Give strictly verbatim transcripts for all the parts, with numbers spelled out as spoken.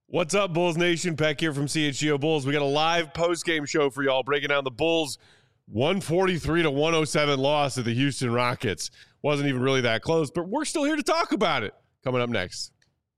What's up, Bulls Nation? Peck here from C H G O Bulls. We got a live post-game show for y'all breaking down the Bulls' one forty-three to one oh seven loss to the Houston Rockets. Wasn't even really that close, but we're still here to talk about it. Coming up next.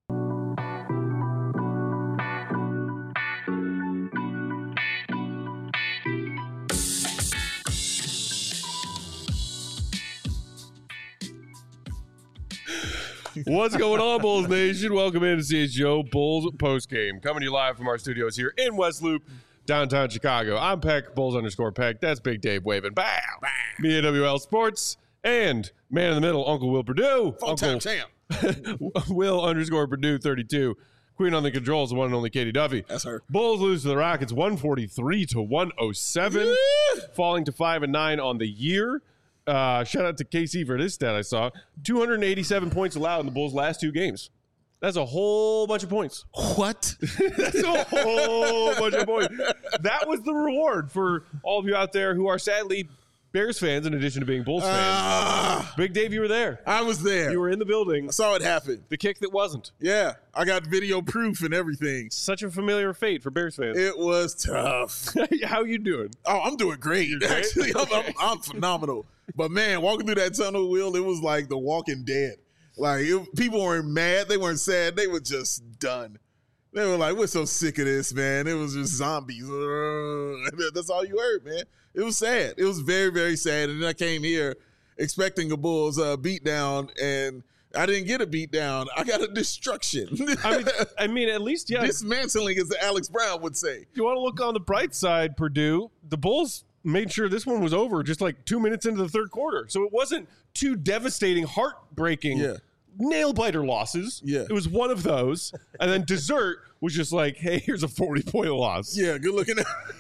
What's going on, Bulls Nation? Welcome into C H G O Bulls postgame. Coming to you live from our studios here in West Loop, downtown Chicago. I'm Peck, Bulls underscore Peck. That's Big Dave waving. Bow. Bow. Me at W L Sports. And man in the middle, Uncle Will Purdue. Full-time champ. Will underscore Purdue thirty-two. Queen on the controls, the one and only Katie Duffy. That's her. Bulls lose to the Rockets one forty-three to one oh seven, yeah. Falling to five and nine on the year. Uh, shout out to K C for this stat I saw. two hundred eighty-seven points allowed in the Bulls' last two games. That's a whole bunch of points. What? That's a whole bunch of points. That was the reward for all of you out there who are sadly Bears fans in addition to being Bulls fans. Uh, Big Dave, you were there. I was there. You were in the building. I saw it happen. The kick that wasn't. Yeah. I got video proof and everything. Such a familiar fate for Bears fans. It was tough. How you doing? Oh, I'm doing great. You're great? Actually, I'm, Okay. I'm, I'm phenomenal. But, man, walking through that tunnel, Will, it was like The Walking Dead. Like, it, people weren't mad. They weren't sad. They were just done. They were like, we're so sick of this, man. It was just zombies. That's all you heard, man. It was sad. It was very, very sad. And then I came here expecting a Bulls uh, beatdown, and I didn't get a beatdown. I got a destruction. I mean, I mean, at least, yeah. Dismantling, as Alex Brown would say. If you want to look on the bright side, Purdue, the Bulls made sure this one was over just like two minutes into the third quarter. So it wasn't two devastating, heartbreaking, yeah. nail-biter losses. Yeah. It was one of those. And then dessert was just like, hey, here's a forty-point loss. Yeah, good looking.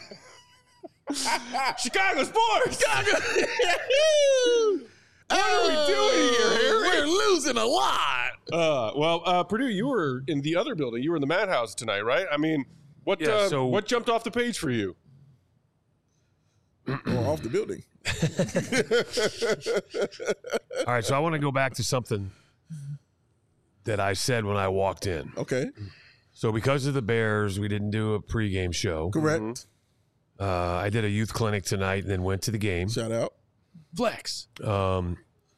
Chicago sports! Chicago! What are we doing here, Harry? We're losing a lot. Uh, well, uh, Purdue, you were in the other building. You were in the Madhouse tonight, right? I mean, what, Yeah, uh, so- what jumped off the page for you? Or off the building. All right, so I want to go back to something that I said when I walked in. Okay. So because of the Bears, we didn't do a pregame show. Correct. Mm-hmm. Uh, I did a youth clinic tonight and then went to the game. Shout out. Flex. Um,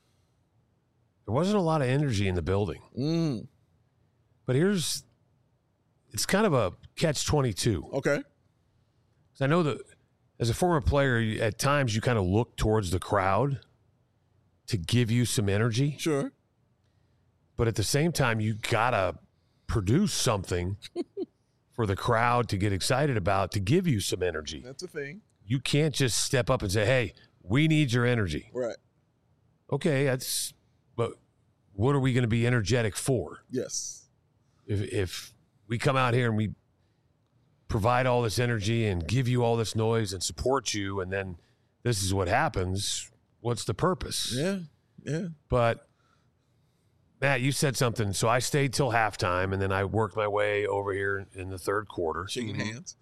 there wasn't a lot of energy in the building. Mm. But here's, it's kind of a catch twenty-two. Okay. 'Cause I know that as a former player, you- at times you kind of look towards the crowd to give you some energy. Sure. But at the same time, you got to produce something for the crowd to get excited about, to give you some energy. That's a thing. You can't just step up and say, hey, we need your energy. Right. Okay, that's, but what are we going to be energetic for? Yes. If, if we come out here and we provide all this energy and give you all this noise and support you, and then this is what happens, what's the purpose? Yeah. Yeah. But Matt, you said something. So I stayed till halftime, and then I worked my way over here in the third quarter. Shaking Mm-hmm. hands.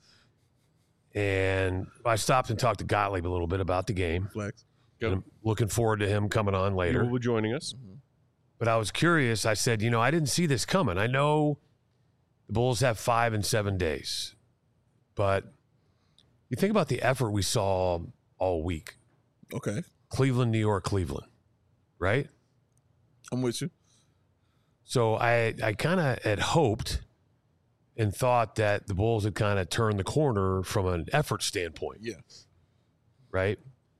And I stopped and talked to Gottlieb a little bit about the game. Flex. And I'm looking forward to him coming on You later. will be joining us. But I was curious. I said, you know, I didn't see this coming. I know the Bulls have five and seven days. But you think about the effort we saw all week. Okay. Cleveland, New York, Cleveland, right? I'm with you. So I I kind of had hoped and thought that the Bulls had kind of turned the corner from an effort standpoint, Yeah. right?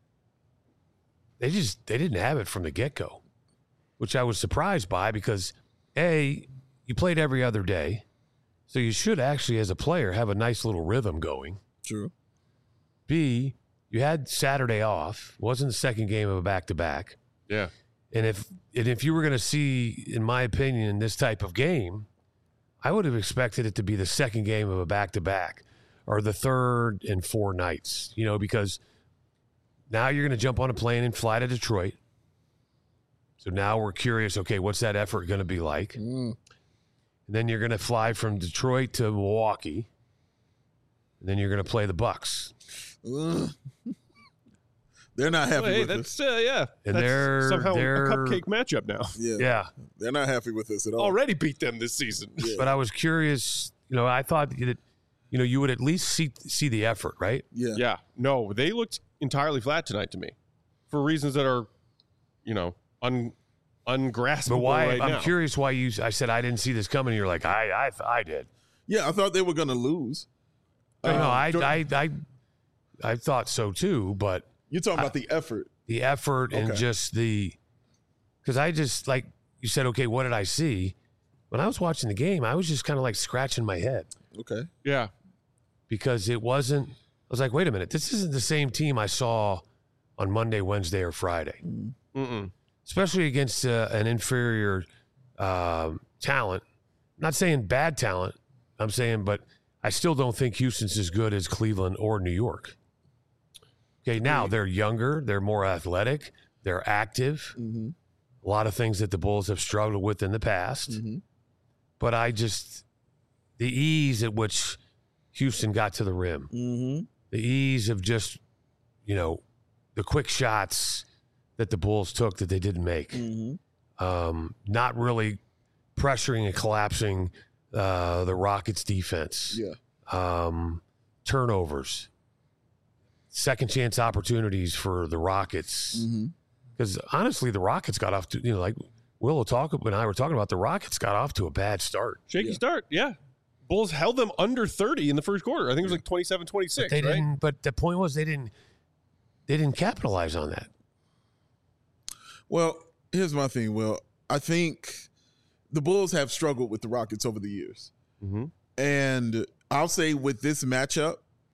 They just they didn't have it from the get-go, which I was surprised by because, A, you played every other day, so you should actually, as a player, have a nice little rhythm going. True. B, you had Saturday off. Wasn't the second game of a back-to-back. Yeah. And if and if you were going to see, in my opinion, this type of game, I would have expected it to be the second game of a back-to-back or the third and four nights, you know, because now you're going to jump on a plane and fly to Detroit. So now we're curious, okay, what's that effort going to be like? Mm. And then you're going to fly from Detroit to Milwaukee, and then you're going to play the Bucks. Ugh. They're not happy Well, hey, with that's us. uh, yeah. And that's they're- somehow they're- a cupcake matchup now. Yeah. Yeah. They're not happy with us at all. Already beat them this season. Yeah. But I was curious you know, I thought that, you know, you would at least see see the effort, right? Yeah. Yeah. No, they looked entirely flat tonight to me for reasons that are, you know, un, ungraspable But why? right I'm now. curious why you. I said I didn't see this coming. You're like I I I did. Yeah, I thought they were going to lose. No, no, Uh, I, Jordan- I I I thought so too. But You're talking about the effort. the effort and Okay. just the because I just like you said. Okay, what did I see? When I was watching the game, I was just kind of like scratching my head. Okay. Yeah. Because it wasn't, I was like, wait a minute, this isn't the same team I saw on Monday, Wednesday, or Friday, Mm-mm. especially against uh, an inferior um talent. Not saying bad talent, I'm saying, but I still don't think Houston's as good as Cleveland or New York. Okay, now they're younger, they're more athletic, they're active, Mm-hmm. a lot of things that the Bulls have struggled with in the past. Mm-hmm. But I just, the ease at which Houston got to the rim, Mm-hmm. the ease of just, you know, the quick shots that the Bulls took that they didn't make, Mm-hmm. um, not really pressuring and collapsing uh, the Rockets' defense, Yeah. um, turnovers, second chance opportunities for the Rockets. Mm-hmm. Because honestly, the Rockets got off to, you know, like Will will talk and I were talking about, the Rockets got off to a bad start. Shaky Yeah. start. Yeah. Bulls held them under thirty in the first quarter. I think it was like twenty-seven twenty-six, They right? didn't, but the point was they didn't, they didn't capitalize on that. Well, here's my thing. Well, I think the Bulls have struggled with the Rockets over the years. Mm-hmm. And I'll say with this matchup,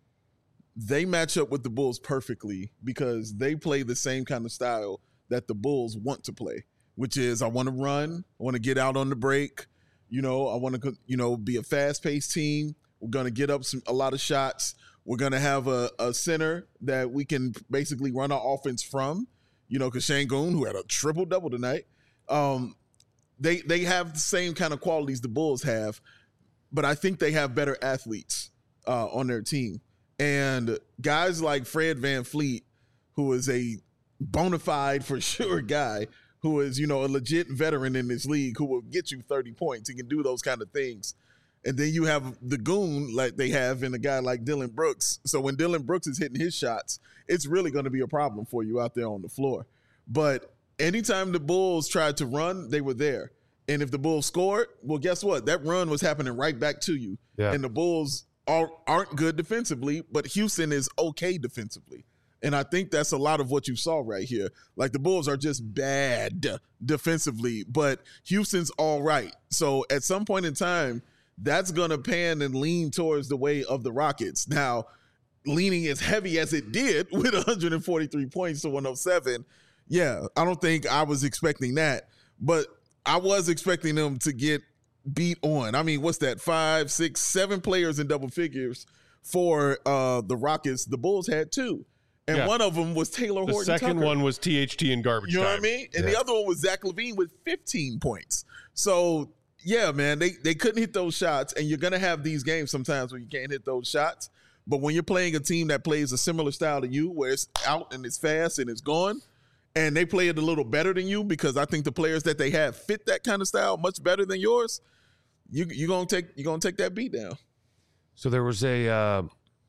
they match up with the Bulls perfectly because they play the same kind of style that the Bulls want to play, which is I want to run, I want to get out on the break, you know, I want to, you know, be a fast-paced team. We're going to get up some a lot of shots. We're going to have a, a center that we can basically run our offense from, you know, because Şengün, who had a triple-double tonight, um, they they have the same kind of qualities the Bulls have, but I think they have better athletes uh, on their team. And guys like Fred VanVleet, who is a bona fide, for sure, guy, who is, you know, a legit veteran in this league, who will get you thirty points. He can do those kind of things. And then you have the goon like they have in a guy like Dylan Brooks. So when Dylan Brooks is hitting his shots, it's really going to be a problem for you out there on the floor. But anytime the Bulls tried to run, they were there. And if the Bulls scored, well, guess what? That run was happening right back to you. Yeah. And the Bulls are, aren't good defensively, but Houston is okay defensively. And I think that's a lot of what you saw right here. Like the Bulls are just bad defensively, but Houston's all right. So at some point in time, that's going to pan and lean towards the way of the Rockets. Now, leaning as heavy as it did with one hundred forty-three points to one oh seven, yeah, I don't think I was expecting that. But I was expecting them to get beat on. I mean, what's that? Five, six, seven players in double figures for uh, the Rockets. The Bulls had two. And Yeah. one of them was Taylor The Horton second Tucker. one was T H T in garbage You know time. what I mean? And Yeah. the other one was Zach LaVine with fifteen points. So, yeah, man, they, they couldn't hit those shots. And you're going to have these games sometimes where you can't hit those shots. But when you're playing a team that plays a similar style to you, where it's out and it's fast and it's gone, and they play it a little better than you, because I think the players that they have fit that kind of style much better than yours, you, you're going to take you're gonna take that beat down. So there was a, uh,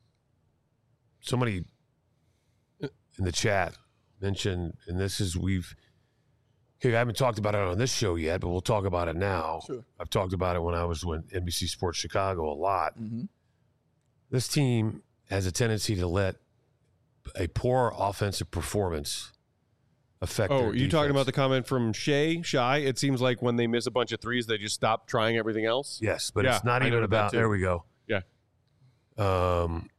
somebody in the chat mentioned, and this is, we've, okay, I haven't talked about it on this show yet, but we'll talk about it now. Sure. I've talked about it when I was with N B C Sports Chicago a lot. Mm-hmm. This team has a tendency to let a poor offensive performance affect Oh, their are you talking defense. about the comment from Shea? Shy? It seems like when they miss a bunch of threes, they just stop trying everything else. Yes, but Yeah, it's not I even noted that about, too. there we go. Yeah. Um,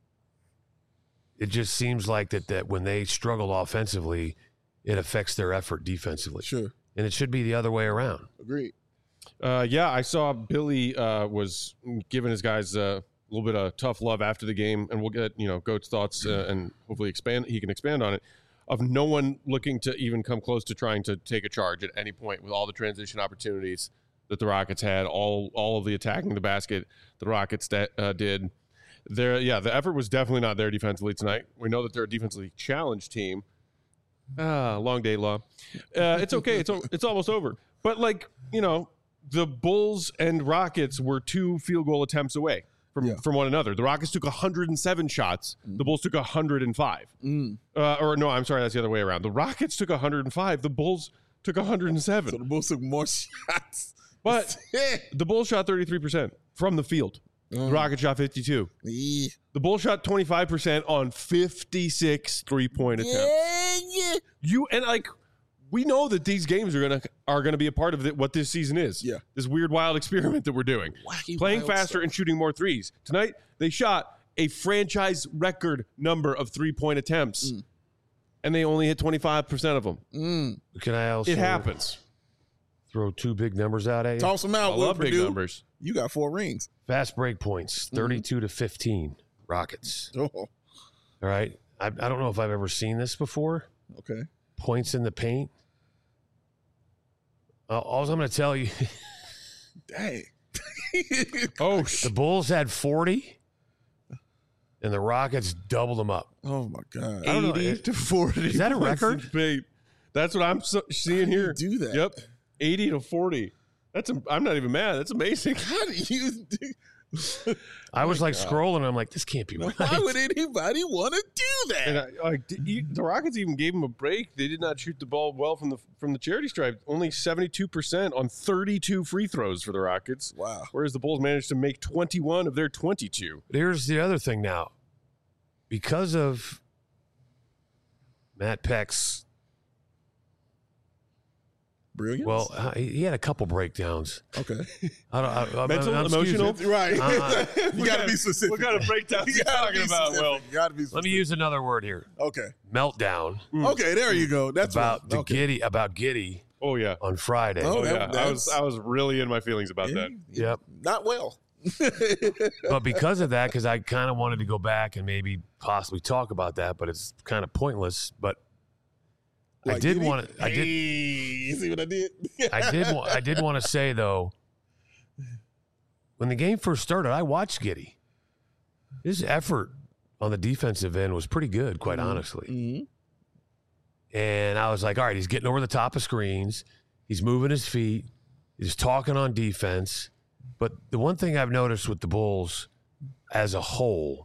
it just seems like that, that when they struggle offensively, it affects their effort defensively. Sure. And it should be the other way around. Agreed. Uh, yeah, I saw Billy uh, was giving his guys uh, a little bit of tough love after the game, and we'll get you know Goat's thoughts uh, and hopefully expand. He can expand on it. Of no one looking to even come close to trying to take a charge at any point with all the transition opportunities that the Rockets had, all all of the attacking the basket the Rockets that, uh, did. There, yeah, the effort was definitely not there defensively tonight. We know that they're a defensively challenged team. Ah, long day, law. Uh, it's okay. It's al- it's almost over. But like you know, the Bulls and Rockets were two field goal attempts away from, Yeah. from one another. The Rockets took one hundred seven shots. Mm. The Bulls took one hundred five. Mm. Uh, or no, I'm sorry, that's the other way around. The Rockets took one hundred five. The Bulls took one hundred seven. So the Bulls took more shots. But the Bulls shot thirty-three percent from the field. The Mm. Rockets shot fifty-two. Yeah. The Bulls shot twenty-five percent on fifty-six three-point attempts. Yeah, yeah. You and like we know that these games are gonna are gonna be a part of the, what this season is. Yeah. This weird wild experiment that we're doing. Wacky, Playing wild faster stuff. and shooting more threes. Tonight they shot a franchise record number of three-point attempts. Mm. And they only hit twenty-five percent of them. Mm. Can I also It happens. throw two big numbers out at you? Toss them I out, Will love big Purdue. numbers. You got four rings. Fast break points, thirty-two to fifteen, Rockets. Oh, All right. I, I don't know if I've ever seen this before. okay. Points in the paint. Uh, all I'm going to tell you, Dang. Oh, the sh- Bulls had forty, and the Rockets doubled them up. Oh my God. I don't know. eighty to forty. Is that a points record? in paint. That's what I'm so, seeing do you here. do that? Yep. eighty to forty. That's a, I'm not even mad. That's amazing. How do you do? I was like scrolling, and I'm like, this can't be right. Why would anybody want to do that? And I, like d- you, the Rockets even gave them a break. They did not shoot the ball well from the from the charity stripe. Only seventy-two percent on thirty-two free throws for the Rockets. Wow. Whereas the Bulls managed to make twenty-one of their twenty-two. But here's the other thing now. Because of Matt Peck's, Brilliant. well, uh, he he had a couple breakdowns. okay. I don't, I, I, Mental, I'm- excuse emotional? me. Right. Uh-uh. you got to be specific. What kind of breakdowns You you gotta talking be about, specific. Will? You got to be specific. Let me use another word here. Okay. Meltdown Okay, there you go. That's about right. the okay. Giddy about Giddy Oh yeah. on Friday. Oh, Oh that- yeah. I was that's- I was really in my feelings about Yeah, that. Yep. Not well. But because of that, because I kind of wanted to go back and maybe possibly talk about that, but it's kind of pointless. But I Like, did he- want to. I Hey, did. you see what I did? I did. wa- I did want to say though, when the game first started, I watched Giddy. His effort on the defensive end was pretty good, quite honestly. Mhm. And I was like, all right, he's getting over the top of screens. He's moving his feet. He's talking on defense. But the one thing I've noticed with the Bulls as a whole,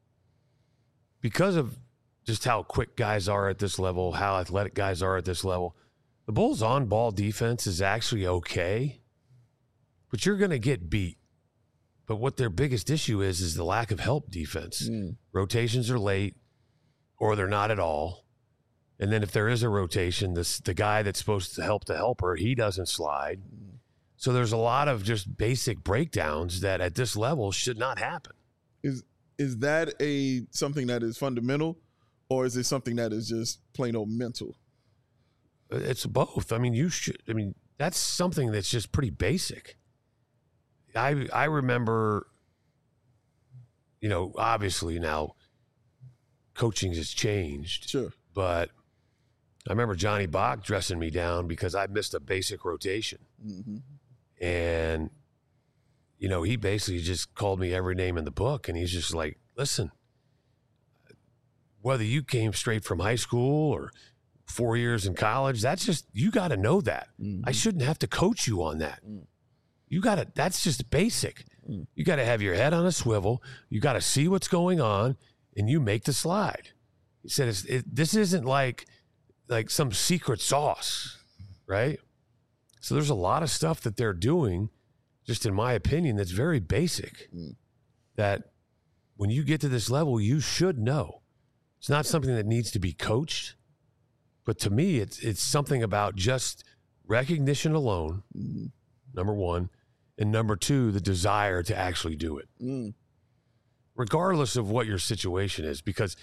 because of just how quick guys are at this level, how athletic guys are at this level, the Bulls' on-ball defense is actually okay, but you're going to get beat. But what their biggest issue is is the lack of help defense. Mm. Rotations are late, or they're not at all. And then if there is a rotation, this the guy that's supposed to help the helper, he doesn't slide. So there's a lot of just basic breakdowns that at this level should not happen. Is is that a something that is fundamental, or is it something that is just plain old mental? It's both. I mean, you should. I mean, that's something that's just pretty basic. I I remember, you know, obviously now coaching has changed, Sure. but I remember Johnny Bach dressing me down because I missed a basic rotation. Mm-hmm. And, you know, he basically just called me every name in the book. And he's just like, listen, whether you came straight from high school or four years in college, that's just, you got to know that. Mm-hmm. I shouldn't have to coach you on that. Mm. You got to, that's just basic. Mm. You got to have your head on a swivel. You got to see what's going on and you make the slide. He said, it's, it, this isn't like, like some secret sauce, right? So there's a lot of stuff that they're doing, just in my opinion, that's very basic. Mm. That when you get to this level, you should know. It's not something that needs to be coached, but to me, it's it's something about just recognition alone, Mm-hmm. number one, and number two, the desire to actually do it, Mm. regardless of what your situation is. Because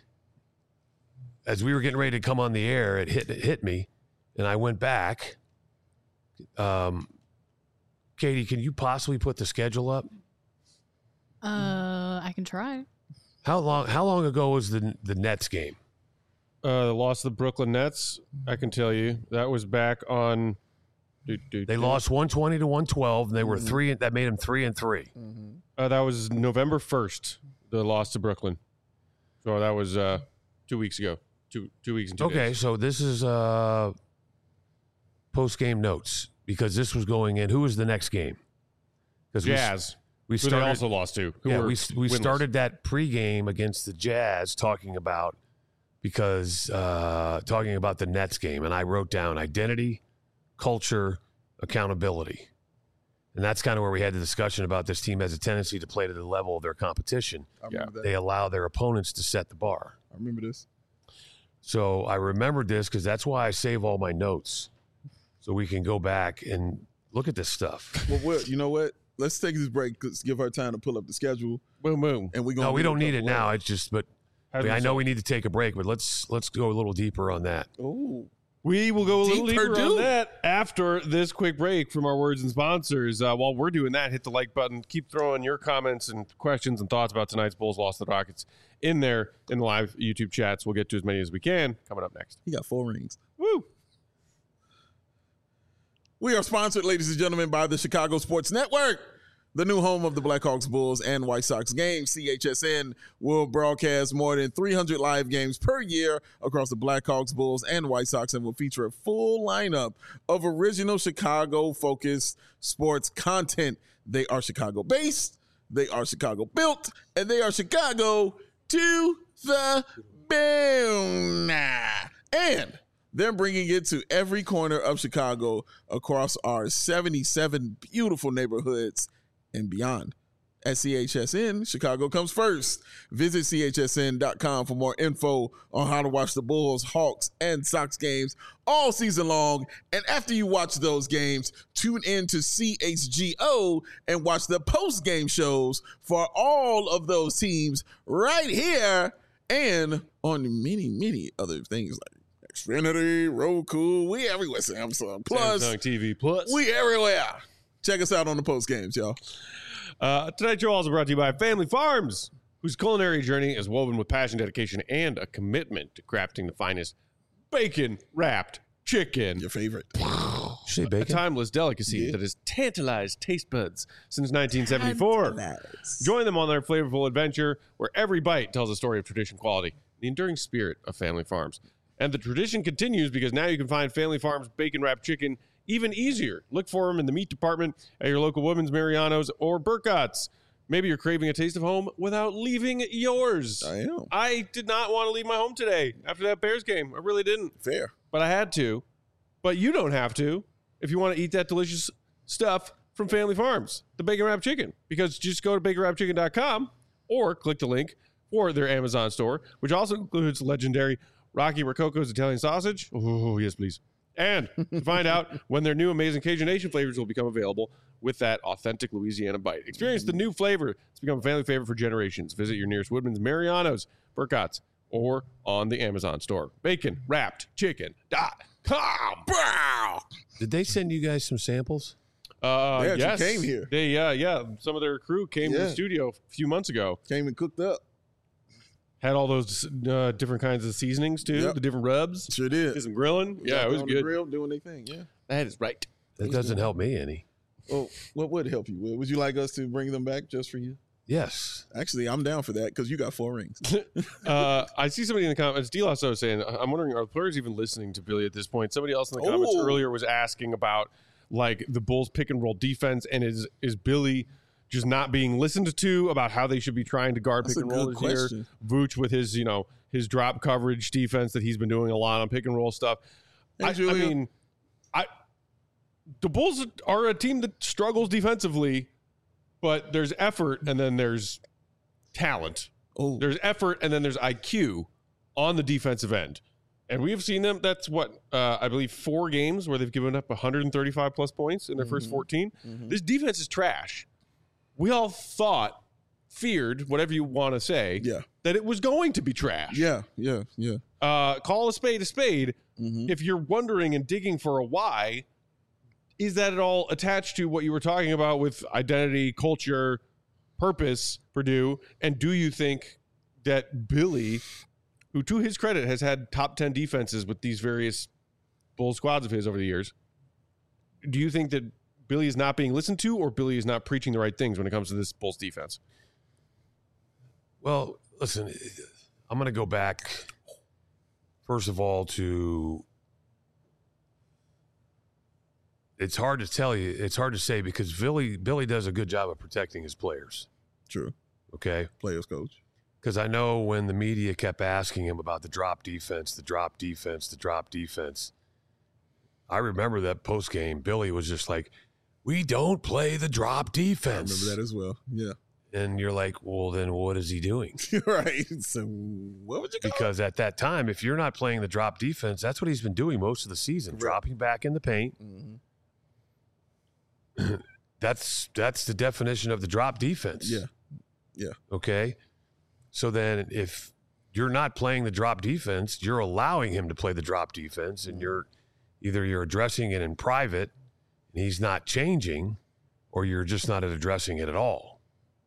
as we were getting ready to come on the air, it hit it hit me, and I went back. Um, Katie, can you possibly put the schedule up? Uh, I can try. How long? How long ago was the the Nets game? Uh, the loss of the Brooklyn Nets, I can tell you. That was back on. Do, do, They do. lost one twenty to one twelve, and they were Mhm. three. That made them three and three. Mm-hmm. Uh, that was November first, the loss to Brooklyn. So that was uh, two weeks ago. Two two weeks and two Okay, days. so this is uh, post game notes. because this was going in. Who was the next game? Because Jazz. We, we who started, they also lost to. Who yeah, were we we winless. started that pregame against the Jazz talking about because uh, talking about the Nets game, and I wrote down identity, culture, accountability. And that's kind of where we had the discussion about this team has a tendency to play to the level of their competition. I remember that. They allow their opponents to set the bar. I remember this. So I remembered this because that's why I save all my notes, so we can go back and look at this stuff. Well, what, you know what? Let's take this break. Let's give her time to pull up the schedule. Boom, boom. And we gonna No, we do a don't need it couple now. of- It's just, but How I, do mean, we I know solve- we need to take a break, but let's let's go a little deeper on that. Oh, We will go a little Deeper deeper on do. that after this quick break from our words and sponsors. Uh, while we're doing that, hit the like button. Keep throwing your comments and questions and thoughts about tonight's Bulls loss to the Rockets in there in the live YouTube chats. We'll get to as many as we can coming up next. he got four rings. Woo! We are sponsored, ladies and gentlemen, by the Chicago Sports Network, the new home of the Blackhawks, Bulls, and White Sox games. C H S N will broadcast more than three hundred live games per year across the Blackhawks, Bulls, and White Sox, and will feature a full lineup of original Chicago-focused sports content. They are Chicago-based, they are Chicago-built, and they are Chicago to the bone. And they're bringing it to every corner of Chicago across our seventy-seven beautiful neighborhoods and beyond. At C H S N, Chicago comes first. Visit C H S N dot com for more info on how to watch the Bulls, Hawks, and Sox games all season long. And after you watch those games, tune in to C H G O and watch the post-game shows for all of those teams right here and on many, many other things like Xfinity, Roku. We everywhere, Samsung. Plus, Samsung T V Plus. we everywhere. Check us out on the post games, y'all. Uh, tonight's show also brought to you by Family Farms, whose culinary journey is woven with passion, dedication, and a commitment to crafting the finest bacon-wrapped chicken. Your favorite. Did you say A bacon? timeless delicacy Yeah. that has tantalized taste buds since nineteen seventy-four. Join them on their flavorful adventure where every bite tells a story of tradition, quality, the enduring spirit of Family Farms. And the tradition continues because now you can find Family Farms bacon-wrapped chicken even easier. Look for them in the meat department at your local Women's Mariano's or Burkott's. Maybe you're craving a taste of home without leaving yours. I am. I did not want to leave my home today after that Bears game. I really didn't. Fair. But I had to. But you don't have to if you want to eat that delicious stuff from Family Farms, the bacon wrapped chicken. Because just go to bacon wrapped chicken dot com or click the link for their Amazon store, which also includes legendary Rocky Rococo's Italian sausage. Oh, yes, please. And to find out when their new amazing Cajun Nation flavors will become available with that authentic Louisiana bite. Experience the new flavor. It's become a family favorite for generations. Visit your nearest Woodman's, Mariano's, Burkott's, or on the Amazon store. Bacon wrapped chicken dot com. Did they send you guys some samples? Uh, They actually yes. came here. They, uh, yeah, some of their crew came to Yeah. the studio a few months ago. Came and cooked up. Had all those uh, different kinds of seasonings too, Yep. the different rubs. Sure did. Did some grilling. Yeah, Got it was on the good. grill doing their thing, yeah. That is right. That doesn't help me any. Well, what would help you? Will? Would you like us to bring them back just for you? Yes. Actually, I'm down for that because you got four rings. uh, I see somebody in the comments, D. Lasso saying, I'm wondering, are players even listening to Billy at this point? Somebody else in the comments Oh. earlier was asking about like the Bulls pick and roll defense, and is is Billy just not being listened to about how they should be trying to guard That's pick a and roll good this year? question. Vooch with his, you know, his drop coverage defense that he's been doing a lot on pick and roll stuff. Hey, I, I Julia. mean, I the Bulls are a team that struggles defensively, but there's effort and then there's talent. Oh, There's effort and then there's I Q on the defensive end. And we've seen them. That's what, uh, I believe, four games where they've given up one hundred thirty-five plus points in their first Mhm. fourteen. Mhm. This defense is trash. We all thought, feared, whatever you want to say, yeah, that it was going to be trash. yeah, yeah, yeah. Uh, call a spade a spade. Mm-hmm. If you're wondering and digging for a why, is that at all attached to what you were talking about with identity, culture, purpose, Purdue? And do you think that Billy, who to his credit has had top ten defenses with these various Bull squads of his over the years, do you think that Billy is not being listened to, or Billy is not preaching the right things when it comes to this Bulls defense? Well, listen, I'm going to go back, first of all, to it's hard to tell you. It's hard to say because Billy Billy does a good job of protecting his players. True. Okay. Players coach. Because I know when the media kept asking him about the drop defense, the drop defense, the drop defense, I remember that post game, Billy was just like, we don't play the drop defense. I remember that as well. Yeah. And you're like, well, then what is he doing? Right. So what would you call Because at that time, if you're not playing the drop defense, that's what he's been doing most of the season, Correct. dropping back in the paint. Mm-hmm. that's that's the definition of the drop defense. Yeah. Yeah. Okay. So then if you're not playing the drop defense, you're allowing him to play the drop defense, and you're either you're addressing it in private and he's not changing, or you're just not addressing it at all.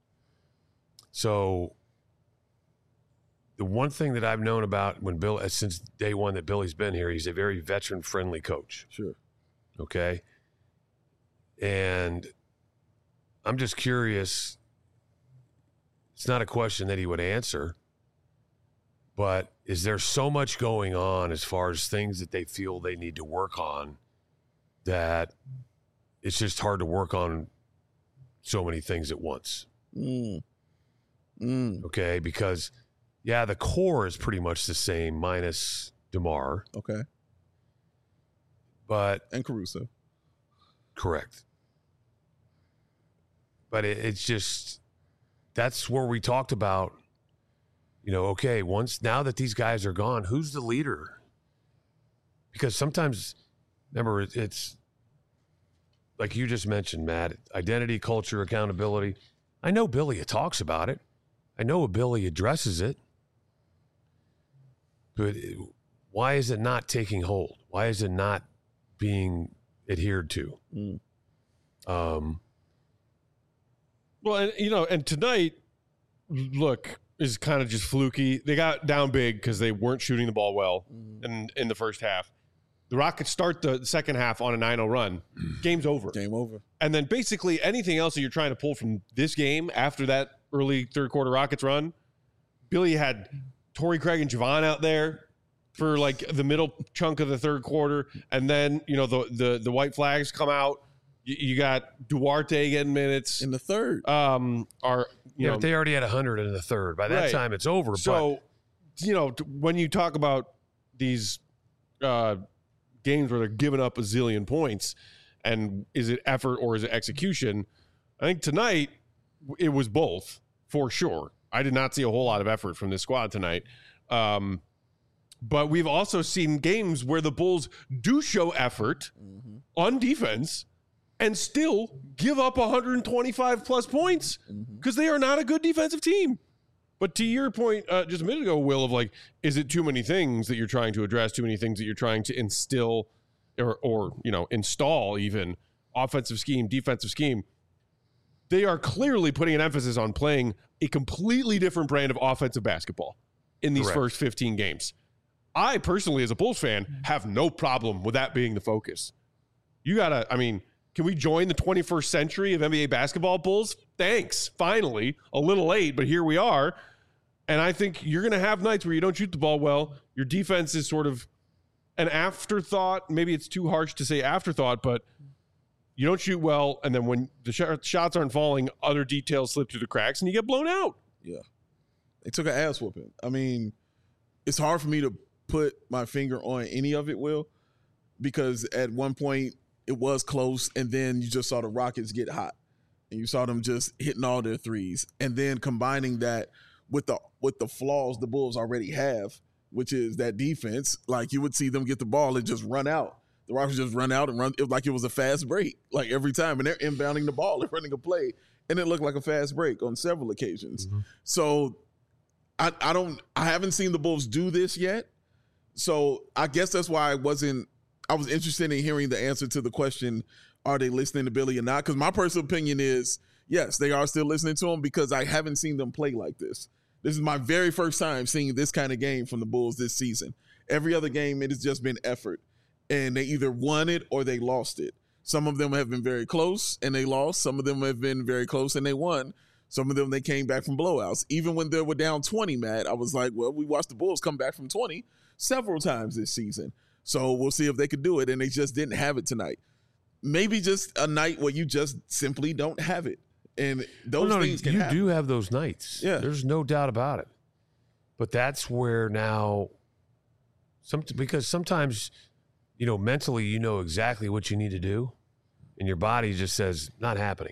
So the one thing that I've known about when Bill, since day one that Billy's been here, he's a very veteran-friendly coach. Sure. Okay. And I'm just curious. It's not a question that he would answer, but is there so much going on as far as things that they feel they need to work on that it's just hard to work on so many things at once? Mm. Mm. Okay. Because yeah, the core is pretty much the same minus DeMar. Okay. But And Caruso. correct. But it, it's just, that's where we talked about, you know, okay, once, now that these guys are gone, who's the leader? Because sometimes, remember, it, it's like you just mentioned, Matt, identity, culture, accountability. I know Billy talks about it. I know Billy addresses it. But it, why is it not taking hold? Why is it not being adhered to? Mm. Um, Well, and, you know, and tonight, look, is kind of just fluky. They got down big because they weren't shooting the ball well Mm. in, in the first half. The Rockets start the second half on a nine oh run. Game's over. Game over. And then basically anything else that you're trying to pull from this game after that early third quarter Rockets run, Billy had Torrey Craig and Javon out there for like the middle chunk of the third quarter. And then, you know, the the, the white flags come out. You, you got Duarte getting minutes. In the third. Um, are you yeah, know but they already had one hundred in the third. By that Right. time, it's over. so you know t- when you talk about these uh, games where they're giving up a zillion points, and is it effort or is it execution? I think tonight it was both for sure. I did not see a whole lot of effort from this squad tonight. Um, but we've also seen games where the Bulls do show effort Mm-hmm. on defense and still give up one hundred twenty-five plus points Mm-hmm. because they are not a good defensive team. But to your point uh, just a minute ago, Will, of like, is it too many things that you're trying to address, too many things that you're trying to instill or, or you know, install even offensive scheme, defensive scheme? They are clearly putting an emphasis on playing a completely different brand of offensive basketball in these Correct. first fifteen games. I personally, as a Bulls fan, have no problem with that being the focus. You got to, I mean, can we join the twenty-first century of N B A basketball, Bulls? Thanks. Finally. A little late, but here we are. And I think you're going to have nights where you don't shoot the ball well. Your defense is sort of an afterthought. Maybe it's too harsh to say afterthought, but you don't shoot well. And then when the sh- shots aren't falling, other details slip through the cracks and you get blown out. Yeah. They took an ass whooping. I mean, it's hard for me to put my finger on any of it, Will, because at one point it was close, and then you just saw the Rockets get hot, and you saw them just hitting all their threes, and then combining that with the with the flaws the Bulls already have, which is that defense. Like, you would see them get the ball and just run out. The Rockets just run out and run. It was like it was a fast break, like every time, and they're inbounding the ball and running a play, and it looked like a fast break on several occasions. Mm-hmm. So I, I don't, I haven't seen the Bulls do this yet. So I guess that's why I wasn't, I was interested in hearing the answer to the question, are they listening to Billy or not? Because my personal opinion is, yes, they are still listening to him, because I haven't seen them play like this. This is my very first time seeing this kind of game from the Bulls this season. Every other game, it has just been effort. And they either won it or they lost it. Some of them have been very close and they lost. Some of them have been very close and they won. Some of them, they came back from blowouts. Even when they were down twenty, Matt, I was like, well, we watched the Bulls come back from twenty several times this season. So we'll see if they could do it. And they just didn't have it tonight. maybe just a night where you just simply don't have it. And those well, no, things can you happen. do have those nights. Yeah. There's no doubt about it. But that's where now, some because sometimes, you know, mentally you know exactly what you need to do, and your body just says, not happening.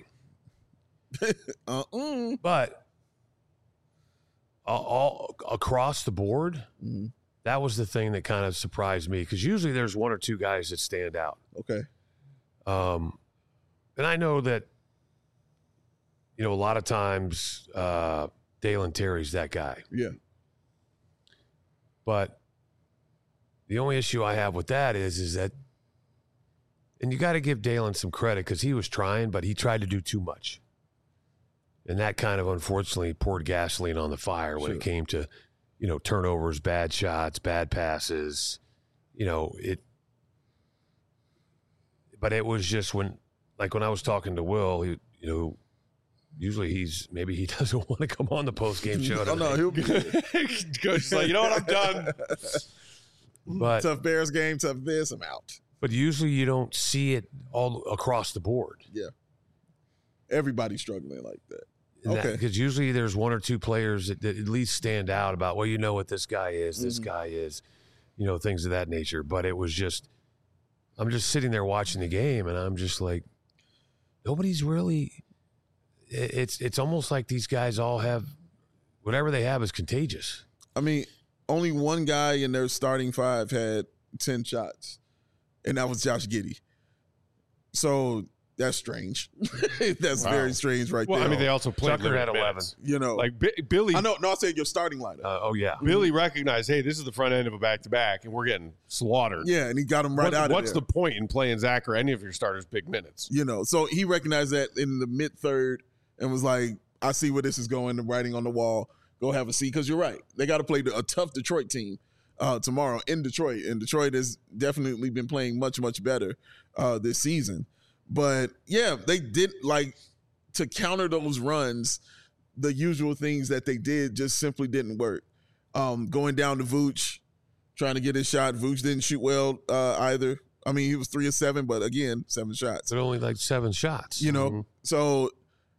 uh-uh. But all, all across the board, Mm-hmm. that was the thing that kind of surprised me, because usually there's one or two guys that stand out. Okay. Um, and I know that, you know, a lot of times uh, Dalen Terry's that guy. Yeah. But the only issue I have with that is, is that, and you got to give Dalen some credit because he was trying, but he tried to do too much. And that kind of unfortunately poured gasoline on the fire when Sure. it came to, you know, turnovers, bad shots, bad passes. You know, it, but it was just when, like when I was talking to Will, he, you know, usually he's, maybe he doesn't want to come on the post-game show. Oh, no, he'll be Coach like, you know what, I'm done. But, tough Bears game, tough this, I'm out. but usually you don't see it all across the board. Yeah. Everybody's struggling like that. Okay. Okay. Because usually there's one or two players that, that at least stand out about, well, you know what this guy is, this Mhm. guy is, you know, things of that nature. But it was just, I'm just sitting there watching the game and I'm just like, nobody's really, it- it's, it's almost like these guys all have, whatever they have is contagious. I mean, only one guy in their starting five had ten shots, and that was Josh Giddey. So that's strange. That's Wow. very strange right Well, there. I mean, they also played Tucker had limited eleven. minutes. you know, Like B- Billy, I know. No, I said your starting lineup. Uh, oh, yeah. Billy recognized, hey, this is the front end of a back-to-back, and we're getting slaughtered. yeah, and he got him right What- out of what's there. the point in playing Zach or any of your starters big minutes? You know, so he recognized that in the mid third and was like, I see where this is going, the writing on the wall. Go have a seat. Because you're right. They got to play a tough Detroit team uh, tomorrow in Detroit. And Detroit has definitely been playing much, much better uh, this season. But yeah, they did like to counter those runs, the usual things that they did just simply didn't work. Um, going down to Vooch, trying to get his shot. Vooch didn't shoot well uh, either. I mean, he was three of seven, but again, seven shots. But only like seven shots. You know, Mhm. so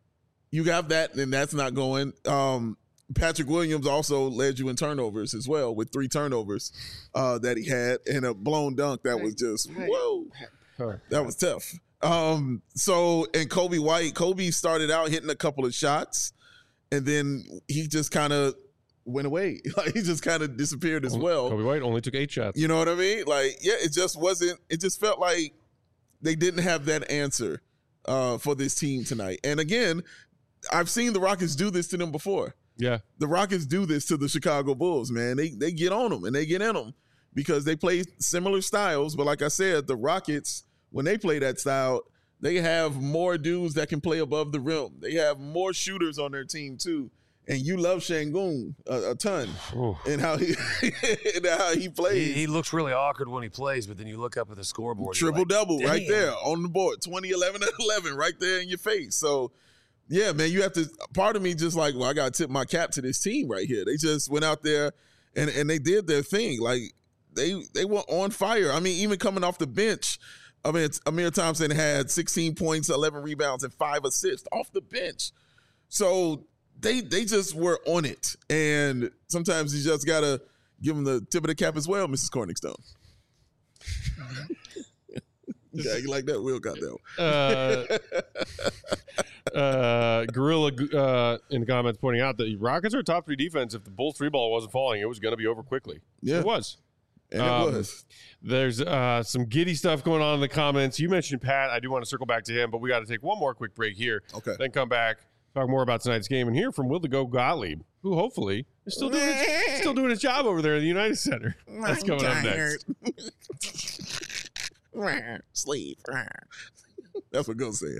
you have that, and that's not going. Um, Patrick Williams also led you in turnovers as well, with three turnovers uh, that he had, and a blown dunk that was just whoa, that was tough. Um, so and Kobe White, Kobe started out hitting a couple of shots, and then he just kind of went away. Like he just kind of disappeared as well. Kobe White only took eight shots. You know what I mean? Like, yeah, it just wasn't, it just felt like they didn't have that answer uh, for this team tonight. And again, I've seen the Rockets do this to them before. Yeah. The Rockets do this to the Chicago Bulls, man. They they get on them and they get in them because they play similar styles. But like I said, the Rockets, when they play that style, they have more dudes that can play above the rim. They have more shooters on their team too. And you love Şengün a, a ton, Ooh. and how he and how he plays. He, he looks really awkward when he plays, but then you look up at the scoreboard. you're Triple like, double right "Damn." there on the board, twenty, eleven, and eleven right there in your face. So, yeah, man, you have to. Part of me just like, well, I got to tip my cap to this team right here. They just went out there and and they did their thing. Like they they were on fire. I mean, even coming off the bench, I mean, it's, Amir Thompson had sixteen points, eleven rebounds, and five assists off the bench. So they they just were on it. And sometimes you just gotta give them the tip of the cap as well, Missus Corningstone. Yeah, you like that? Will got that one. Uh, uh, Gorilla uh, in the comments pointing out that the Rockets are a top three defense. If the Bulls three ball wasn't falling, it was going to be over quickly. Yeah. It was. And Um, it was. There's uh, some giddy stuff going on in the comments. You mentioned Pat. I do want to circle back to him, but we got to take one more quick break here. Okay. Then come back, talk more about tonight's game, and hear from Will the Go Gottlieb, who hopefully is still doing his, still doing his job over there in the United Center. That's coming up next. Sleep. That's what Go said.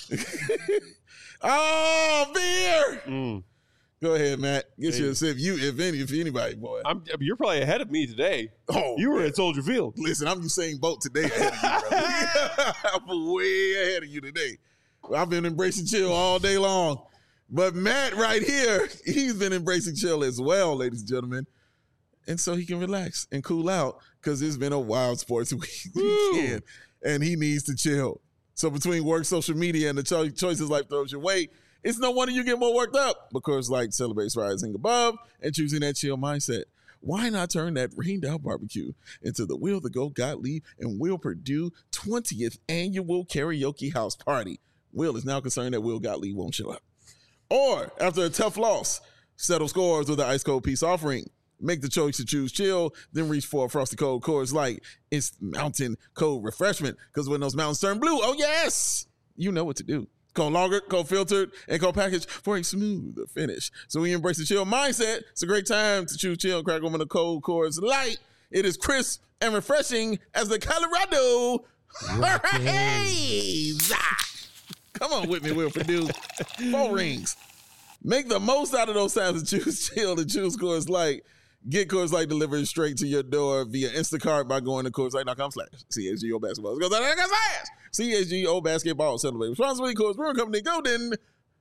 Oh, beer. Mm. Go ahead, Matt. Get Hey. you a sip. You, if any, if anybody, boy. I'm, you're probably ahead of me today. Oh, You were man. at Soldier Field. Listen, I'm Usain Bolt today ahead of you, brother. I'm way ahead of you today. I've been embracing chill all day long. But Matt right here, he's been embracing chill as well, ladies and gentlemen. And so he can relax and cool out because it's been a wild sports week- weekend. And he needs to chill. So between work, social media, and the cho- choices life throws your way, it's no wonder you get more worked up. Because Light celebrates rising above and choosing that chill mindset. Why not turn that rained out barbecue into the Will the Go Gottlieb and Will Purdue twentieth annual karaoke house party? Will is now concerned that Will Gottlieb won't show up. Or after a tough loss, settle scores with an ice cold peace offering. Make the choice to choose chill, then reach for a Frosty Cold Coors Light. It's mountain cold refreshment, because when those mountains turn blue, oh yes, you know what to do. Cold lager, cold filtered, and cold packaged for a smoother finish. So when you embrace the chill mindset, it's a great time to choose chill, crack open a cold Coors Light. It is crisp and refreshing as the Colorado Hurricanes. Come on with me, Will Purdue. Four rings. Make the most out of those times to choose chill and choose Coors Light. Get Coors Light delivered straight to your door via Instacart by going to Coors Light dot com slash C H G O Basketball. Go slash C H G O Basketball. Celebrate responsibly. Coors Brewing Company, Golden,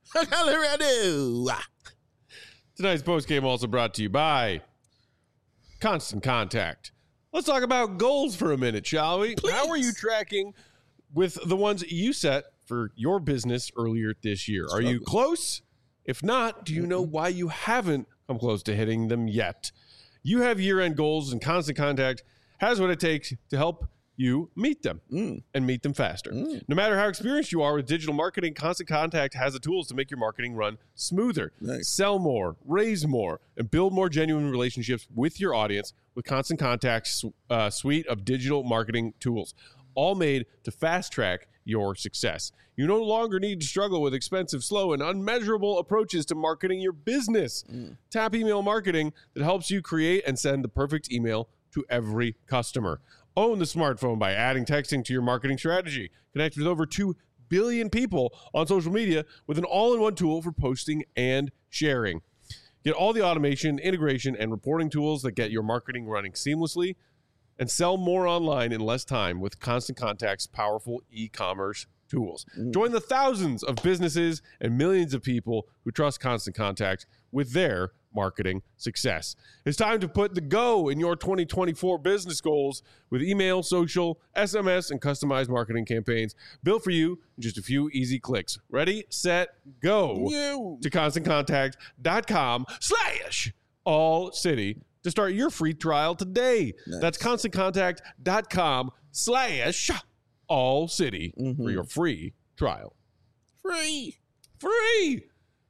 Colorado. Tonight's postgame also brought to you by Constant Contact. Let's talk about goals for a minute, shall we? Please. How are you tracking with the ones you set for your business earlier this year? Are you close? If not, do you know why you haven't come close to hitting them yet? You have year-end goals, and Constant Contact has what it takes to help you meet them mm. and meet them faster. Mm. No matter how experienced you are with digital marketing, Constant Contact has the tools to make your marketing run smoother. Nice. Sell more, raise more, and build more genuine relationships with your audience with Constant Contact's uh, suite of digital marketing tools, all made to fast-track your success. You no longer need to struggle with expensive, slow, and unmeasurable approaches to marketing your business. Mm. Tap email marketing that helps you create and send the perfect email to every customer. Own the smartphone by adding texting to your marketing strategy. Connect with over two billion people on social media with an all-in-one tool for posting and sharing. Get all the automation, integration, and reporting tools that get your marketing running seamlessly, and sell more online in less time with Constant Contact's powerful e-commerce tools. Mm. Join the thousands of businesses and millions of people who trust Constant Contact with their marketing success. It's time to put the go in your twenty twenty-four business goals with email, social, S M S, and customized marketing campaigns built for you in just a few easy clicks. Ready, set, go Ew. to constant contact dot com slash all city to start your free trial today. Nice. That's constant contact dot com slash all city mm-hmm. for your free trial. Free. Free.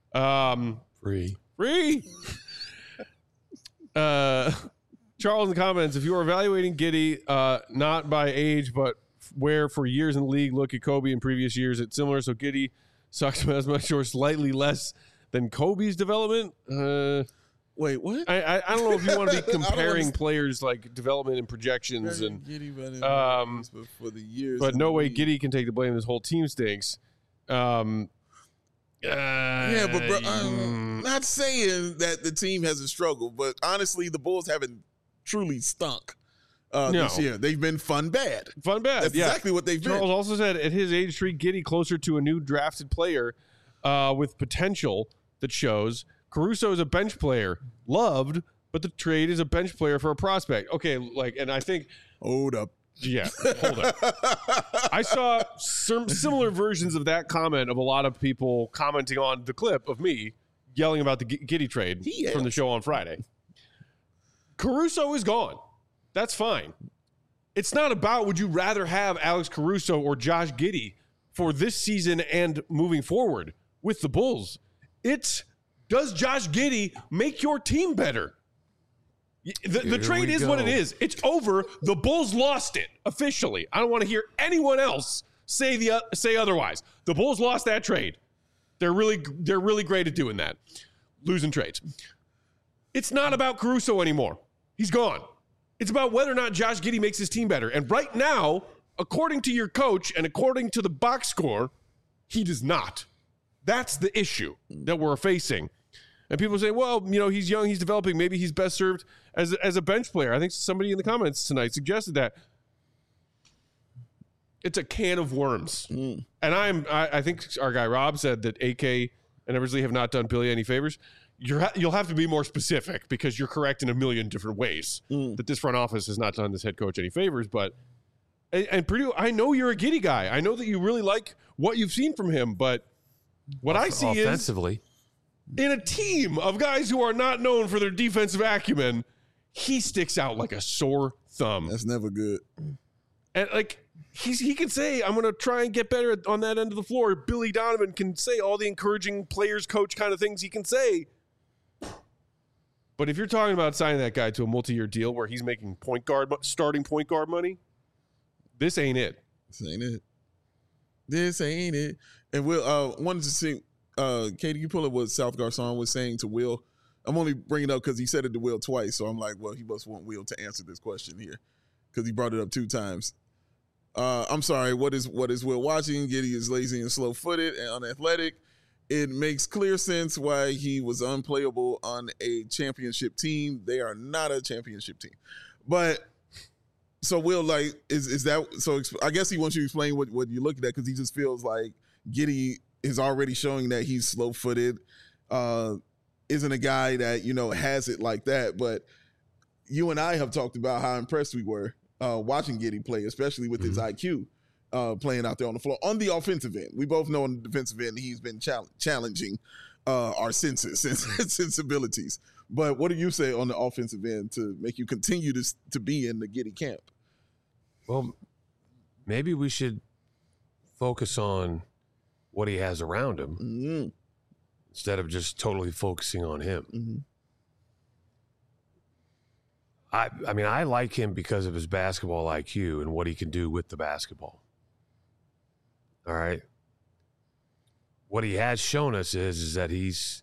Um, free. Free. uh, Charles in the comments, if you are evaluating Giddey, uh, not by age, but where for years in the league, look at Kobe in previous years, it's similar. So Giddey sucks as much or slightly less than Kobe's development. Uh, Wait, what? I, I I don't know if you want to be comparing players like development and projections and Giddey, um, for the years, but no way Giddey can take the blame. This whole team stinks. Um, uh, yeah, but bro, I'm not saying that the team hasn't struggled, but honestly, the Bulls haven't truly stunk uh, no. this year. They've been fun bad. Fun bad. That's yeah. exactly what they've Charles been. also said at his age, treat Giddey closer to a new drafted player uh, with potential that shows. Caruso is a bench player, loved, but the trade is a bench player for a prospect. Okay, like, and I think, hold up, yeah, hold up. I saw some similar versions of that comment of a lot of people commenting on the clip of me yelling about the Giddey trade yeah. from the show on Friday. Caruso is gone. That's fine. It's not about would you rather have Alex Caruso or Josh Giddey for this season and moving forward with the Bulls. It's does Josh Giddey make your team better? The, the trade is go. what it is. It's over. The Bulls lost it officially. I don't want to hear anyone else say the uh, say otherwise. The Bulls lost that trade. They're really they're really great at doing that, losing trades. It's not about Caruso anymore. He's gone. It's about whether or not Josh Giddey makes his team better. And right now, according to your coach and according to the box score, he does not. That's the issue that we're facing. And people say, well, you know, he's young, he's developing. Maybe he's best served as, as a bench player. I think somebody in the comments tonight suggested that. It's a can of worms. Mm. And I'm, I, I think our guy Rob said that A K and Eversley have not done Billy any favors. You're ha- you'll have to be more specific because you're correct in a million different ways mm. that this front office has not done this head coach any favors. But And, and Purdue, I know you're a Giddey guy. I know that you really like what you've seen from him, but what I see offensively, is in a team of guys who are not known for their defensive acumen, he sticks out like a sore thumb. That's never good. And like he's he can say, I'm gonna try and get better on that end of the floor. Billy Donovan can say all the encouraging players coach kind of things he can say. But if you're talking about signing that guy to a multi-year deal where he's making point guard starting point guard money, this ain't it. This ain't it. This ain't it. And Will, uh, wanted to see, uh, Katie, you pull up what South Garcon was saying to Will. I'm only bringing it up because he said it to Will twice. So I'm like, well, he must want Will to answer this question here because he brought it up two times. Uh, I'm sorry. What is what is Will watching? Giddey is lazy and slow-footed and unathletic. It makes clear sense why he was unplayable on a championship team. They are not a championship team. But so Will, like, is is that so? I guess he wants you to explain what, what you look at that because he just feels like Giddey is already showing that he's slow-footed, uh, isn't a guy that, you know, has it like that. But you and I have talked about how impressed we were uh, watching Giddey play, especially with mm-hmm. his I Q. Uh, playing out there on the floor on the offensive end. We both know on the defensive end he's been chal- challenging uh, our senses and sensibilities. But what do you say on the offensive end to make you continue to to be in the Giddey camp? Well, maybe we should focus on what he has around him mm-hmm. instead of just totally focusing on him. Mm-hmm. I, I mean, I like him because of his basketball I Q and what he can do with the basketball. All right. What he has shown us is, is that he's,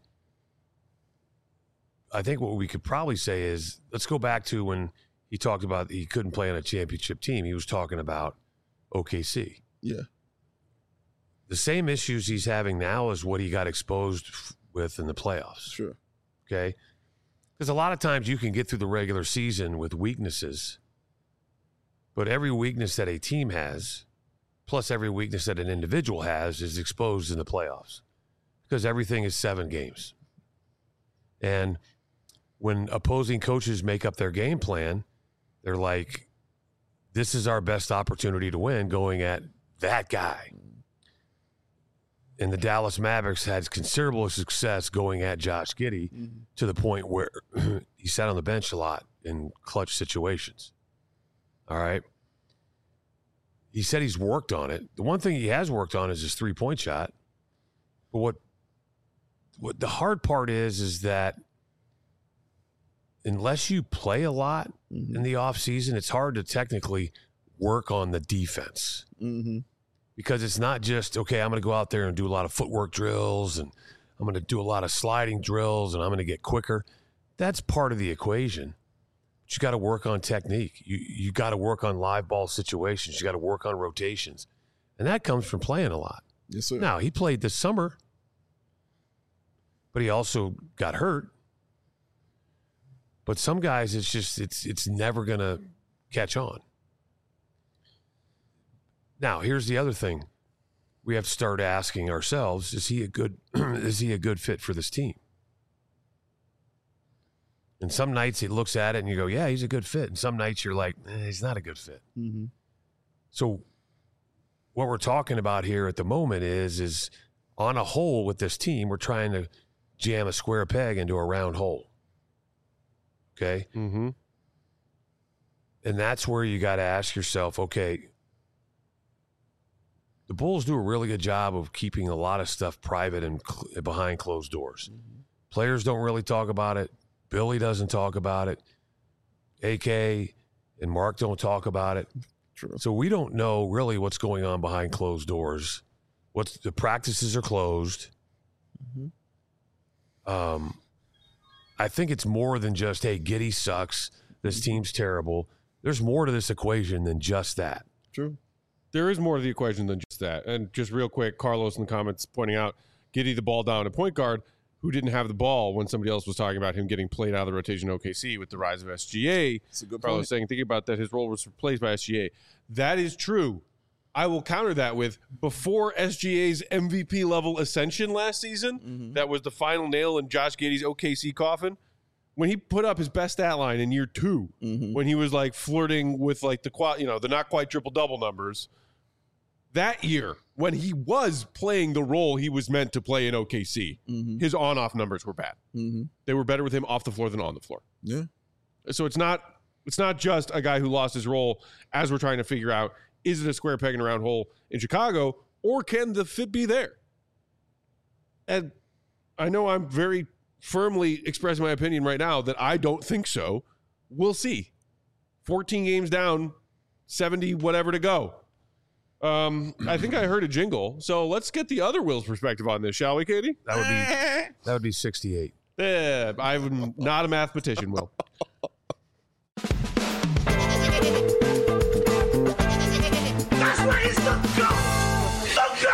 I think what we could probably say is, let's go back to when he talked about he couldn't play on a championship team. He was talking about O K C. Yeah. The same issues he's having now is what he got exposed with in the playoffs. Sure. Okay. Because a lot of times you can get through the regular season with weaknesses, but every weakness that a team has, plus every weakness that an individual has, is exposed in the playoffs because everything is seven games. And when opposing coaches make up their game plan, they're like, this is our best opportunity to win going at that guy. And the Dallas Mavericks had considerable success going at Josh Giddey mm-hmm. to the point where he sat on the bench a lot in clutch situations. All right. He said he's worked on it. The one thing he has worked on is his three-point shot. But what what the hard part is, is that unless you play a lot mm-hmm. in the offseason, it's hard to technically work on the defense. Mm-hmm. Because it's not just, okay, I'm going to go out there and do a lot of footwork drills and I'm going to do a lot of sliding drills and I'm going to get quicker. That's part of the equation. But you got to work on technique. You you got to work on live ball situations. You got to work on rotations. And that comes from playing a lot. Yes, sir. Now, he played this summer, but he also got hurt. But some guys, it's just, it's it's never going to catch on. Now, here's the other thing. We have to start asking ourselves, is he a good is he a good fit for this team? And some nights he looks at it and you go, yeah, he's a good fit. And some nights you're like, eh, he's not a good fit. Mm-hmm. So what we're talking about here at the moment is, is on a whole with this team, we're trying to jam a square peg into a round hole. Okay? Mm-hmm. And that's where you got to ask yourself, okay, the Bulls do a really good job of keeping a lot of stuff private and cl- behind closed doors. Mm-hmm. Players don't really talk about it. Billy doesn't talk about it. A K and Mark don't talk about it. True. So we don't know really what's going on behind closed doors. What's the practices are closed. Mm-hmm. Um, I think it's more than just, hey, Giddey sucks. This team's terrible. There's more to this equation than just that. True. There is more to the equation than just that. And just real quick, Carlos in the comments pointing out Giddey the ball down at point guard, who didn't have the ball when somebody else was talking about him getting played out of the rotation O K C with the rise of S G A. That's a good Carlos point. saying, thinking about that, his role was replaced by S G A. That is true. I will counter that with before S G A's M V P level ascension last season, mm-hmm. that was the final nail in Josh Giddey's O K C coffin. when he put up his best stat line in year two, Mm-hmm. when he was like flirting with like the quad, you know, the not quite triple double numbers. That year, when he was playing the role he was meant to play in O K C, Mm-hmm. his on off numbers were bad. Mm-hmm. They were better with him off the floor than on the floor. Yeah. So it's not it's not just a guy who lost his role as we're trying to figure out, is it a square peg in a round hole in Chicago, or can the fit be there? And I know I'm very firmly expressing my opinion right now that I don't think so. We'll see. fourteen games down, seventy whatever to go. Um, I think I heard a jingle. So let's get the other Will's perspective on this, shall we, Katie? That would be that would be sixty-eight. Yeah, I'm not a mathematician, Will. That's where he's the goat! The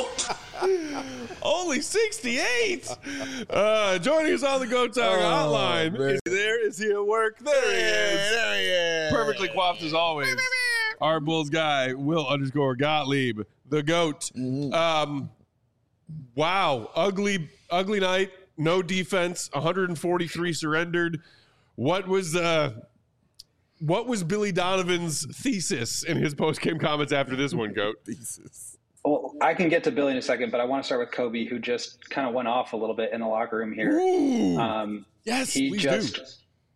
goat! Only sixty-eight. Uh, joining us on the Go Talk Oh, hotline. man. Is he there? Is he at work? There he is. There he is. Perfectly coiffed as always. Our Bulls guy, Will underscore Gottlieb, the GOAT. Mm-hmm. Um, wow. Ugly, ugly night. No defense. one hundred forty-three surrendered. What was uh, what was Billy Donovan's thesis in his post-game comments after this one, GOAT? Thesis. Well, I can get to Billy in a second, but I want to start with Kobe, who just kind of went off a little bit in the locker room here. Ooh. Um, yes, he please just, do.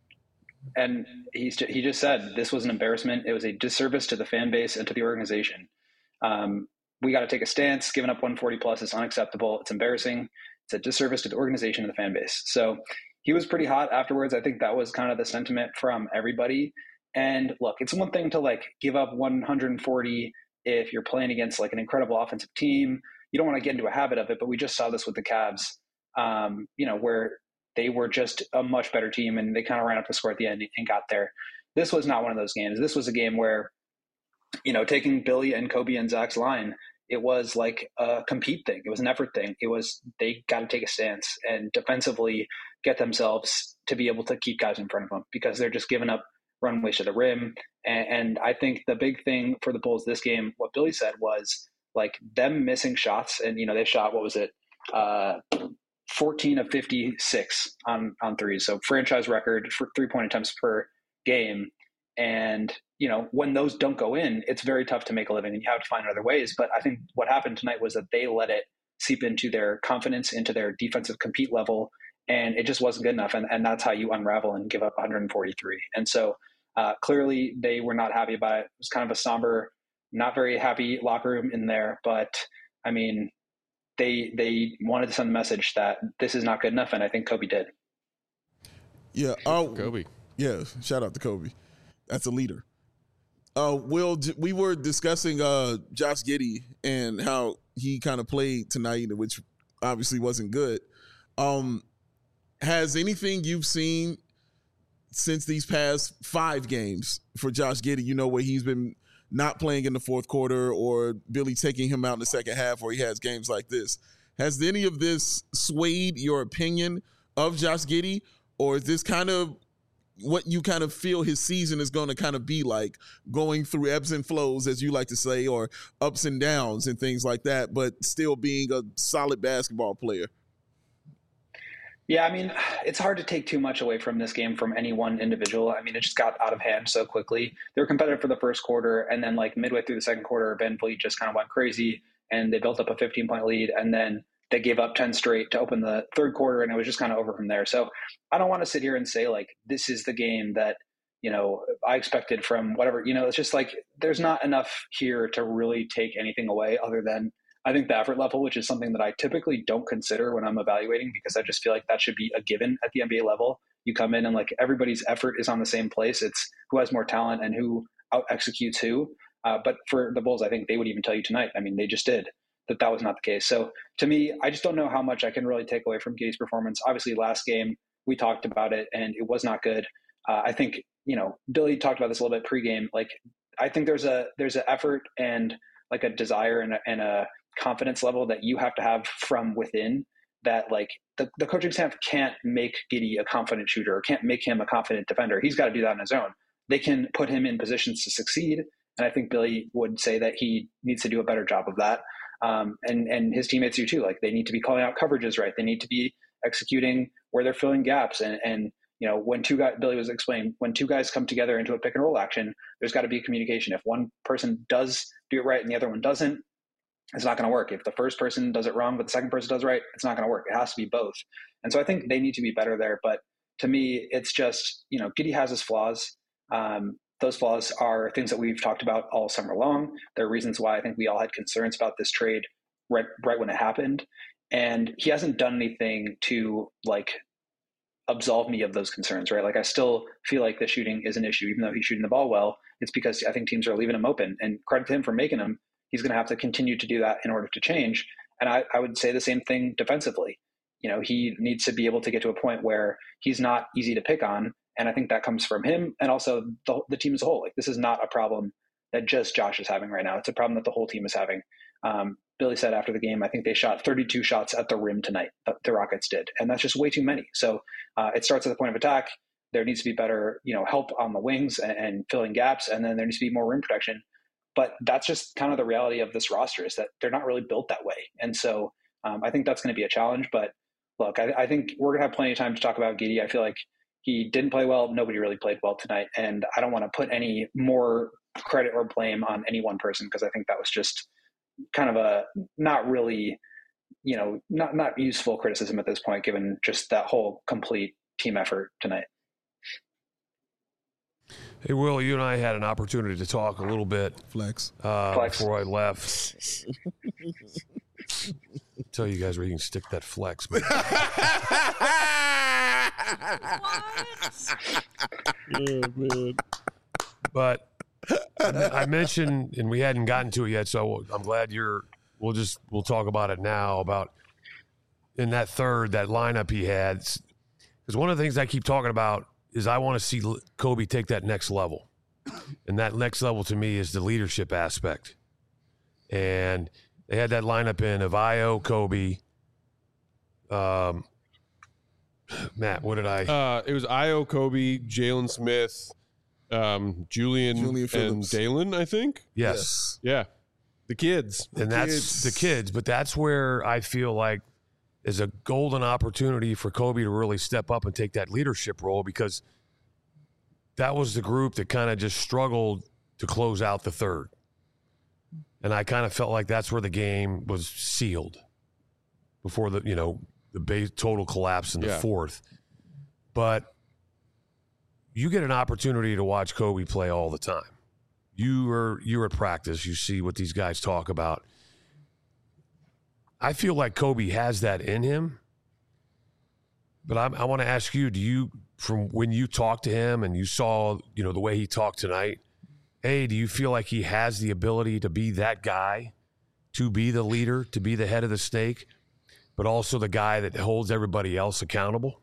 And he's he just said this was an embarrassment. It was a disservice to the fan base and to the organization. Um, we got to take a stance. Giving up one forty plus is unacceptable. It's embarrassing. It's a disservice to the organization and the fan base. So he was pretty hot afterwards. I think that was kind of the sentiment from everybody. And look, it's one thing to like give up one hundred forty if you're playing against like an incredible offensive team. You don't want to get into a habit of it, but we just saw this with the Cavs, um, you know, where they were just a much better team and they kind of ran up the score at the end and got there. This was not one of those games. This was a game where, you know, taking Billy and Kobe and Zach's line, it was like a compete thing. It was an effort thing. It was, they got to take a stance and defensively get themselves to be able to keep guys in front of them because they're just giving up runways to the rim. And, and I think the big thing for the Bulls this game, what Billy said was like them missing shots. And, you know, they shot, what was it? Uh, fourteen of fifty-six on, on threes. So franchise record for three point attempts per game. And, you know, when those don't go in, it's very tough to make a living and you have to find other ways. But I think what happened tonight was that they let it seep into their confidence, into their defensive compete level. And it just wasn't good enough. And, and that's how you unravel and give up one hundred forty-three. And so uh, clearly they were not happy about it. It was kind of a somber, not very happy locker room in there. But I mean, they they wanted to send a message that this is not good enough. And I think Kobe did. Yeah. Oh, Kobe. Yeah. Shout out to Kobe. That's a leader. Uh, Will, we were discussing uh, Josh Giddey and how he kind of played tonight, which obviously wasn't good. Um, has anything you've seen since these past five games for Josh Giddey, you know, where he's been not playing in the fourth quarter or Billy taking him out in the second half where he has games like this, has any of this swayed your opinion of Josh Giddey, or is this kind of what you kind of feel his season is going to kind of be like, going through ebbs and flows, as you like to say, or ups and downs and things like that, but still being a solid basketball player? Yeah, I mean, it's hard to take too much away from this game from any one individual. I mean, it just got out of hand so quickly. They were competitive for the first quarter, and then like midway through the second quarter, Van Vliet just kind of went crazy, and they built up a fifteen-point lead, and then they gave up ten straight to open the third quarter, and it was just kind of over from there. So I don't want to sit here and say, like, this is the game that, you know, I expected from whatever. You know, it's just like there's not enough here to really take anything away other than I think the effort level, which is something that I typically don't consider when I'm evaluating because I just feel like that should be a given at the N B A level. You come in and like everybody's effort is on the same place. It's who has more talent and who out executes who. Uh, but for the Bulls, I think they would even tell you tonight, I mean, they just did, that that was not the case. So to me, I just don't know how much I can really take away from Giddey's performance. Obviously, last game, we talked about it and it was not good. Uh, I think, you know, Billy talked about this a little bit pregame. Like, I think there's a there's an effort and like a desire and a, and a confidence level that you have to have from within that like the, the coaching staff can't make Giddey a confident shooter or can't make him a confident defender. He's got to do that on his own. They can put him in positions to succeed. And I think Billy would say that he needs to do a better job of that. Um, and, and his teammates do too. Like they need to be calling out coverages right. They need to be executing where they're filling gaps and, and You know, when two guys, Billy was explaining, when two guys come together into a pick and roll action, there's got to be communication. If one person does do it right and the other one doesn't, it's not going to work. If the first person does it wrong, but the second person does it right, it's not going to work. It has to be both. And so I think they need to be better there. But to me, it's just, you know, Giddey has his flaws. Um, those flaws are things that we've talked about all summer long. There are reasons why I think we all had concerns about this trade right, right when it happened. And he hasn't done anything to like absolve me of those concerns, right? Like I still feel like the shooting is an issue, even though he's shooting the ball well. It's because I think teams are leaving him open, and credit to him for making them. He's going to have to continue to do that in order to change. And I, I would say the same thing defensively. You know, he needs to be able to get to a point where he's not easy to pick on. And I think that comes from him and also the, the team as a whole. Like this is not a problem that just Josh is having right now. It's a problem that the whole team is having. Um, Billy said after the game, I think they shot thirty-two shots at the rim tonight, the Rockets did. And that's just way too many. So uh, it starts at the point of attack. There needs to be better, you know, help on the wings and, and filling gaps. And then there needs to be more rim protection. But that's just kind of the reality of this roster, is that they're not really built that way. And so um, I think that's going to be a challenge. But look, I, I think we're going to have plenty of time to talk about Giddey. I feel like he didn't play well. Nobody really played well tonight. And I don't want to put any more credit or blame on any one person, because I think that was just kind of a not really, you know, not, not useful criticism at this point, given just that whole complete team effort tonight. Hey, Will, you and I had an opportunity to talk a little bit Flex. Uh, Flex. before I left. Tell you guys where you can stick that flex. Man. Oh, man. But I, I mentioned, and we hadn't gotten to it yet, so I'm glad you're. We'll just we'll talk about it now. About in that third, that lineup he had, because one of the things I keep talking about is I want to see Kobe take that next level. And that next level to me is the leadership aspect. And they had that lineup in of Ayo, Kobe. Um, Matt, what did I? Uh, it was Ayo, Kobe, Jalen Smith, um, Julian, Julian and Phillips. Dalen, I think. Yes. Yeah. The kids. And that's kids. the kids. But that's where I feel like is a golden opportunity for Kobe to really step up and take that leadership role, because that was the group that kind of just struggled to close out the third. And I kind of felt like that's where the game was sealed before the, you know, the base total collapse in the Yeah. fourth. But you get an opportunity to watch Kobe play all the time. You are, you're at practice. You see what these guys talk about. I feel like Kobe has that in him, but I'm, I want to ask you, do you, from when you talked to him and you saw, you know, the way he talked tonight, hey, do you feel like he has the ability to be that guy, to be the leader, to be the head of the snake, but also the guy that holds everybody else accountable?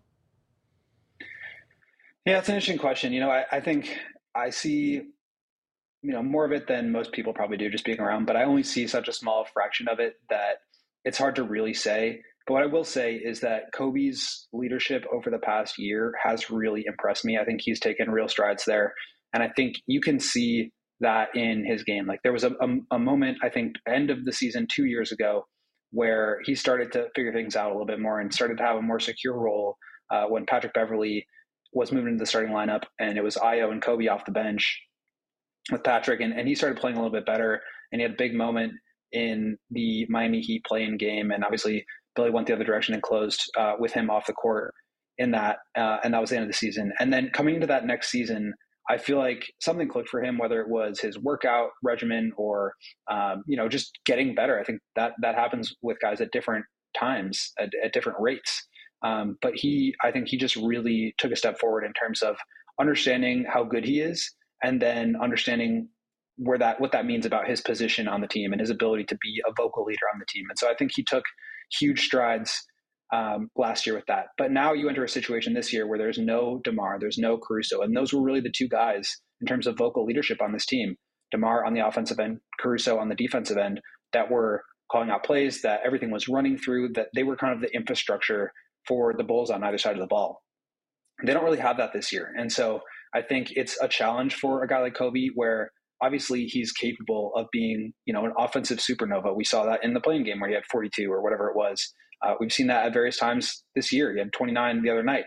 Yeah, it's an interesting question. You know, I, I think I see, you know, more of it than most people probably do just being around, but I only see such a small fraction of it that it's hard to really say. But what I will say is that Kobe's leadership over the past year has really impressed me. I think he's taken real strides there. And I think you can see that in his game. Like there was a, a, a moment, I think, end of the season two years ago, where he started to figure things out a little bit more and started to have a more secure role uh, when Patrick Beverley was moving into the starting lineup, and it was Ayo and Kobe off the bench with Patrick. And, and he started playing a little bit better, and he had a big moment in the Miami Heat play-in game. And obviously Billy went the other direction and closed uh, with him off the court in that. Uh, and that was the end of the season. And then coming into that next season, I feel like something clicked for him, whether it was his workout regimen or, um, you know, just getting better. I think that that happens with guys at different times, at, at different rates. Um, but he, I think he just really took a step forward in terms of understanding how good he is, and then understanding where that, what that means about his position on the team and his ability to be a vocal leader on the team. And so I think he took huge strides um, last year with that. But now you enter a situation this year where there's no DeMar, there's no Caruso. And those were really the two guys in terms of vocal leadership on this team. DeMar on the offensive end, Caruso on the defensive end, that were calling out plays, that everything was running through, that they were kind of the infrastructure for the Bulls on either side of the ball. They don't really have that this year. And so I think it's a challenge for a guy like Kobe, where obviously he's capable of being, you know, an offensive supernova. We saw that in the playing game where he had forty-two or whatever it was. Uh, we've seen that at various times this year. He had twenty-nine the other night.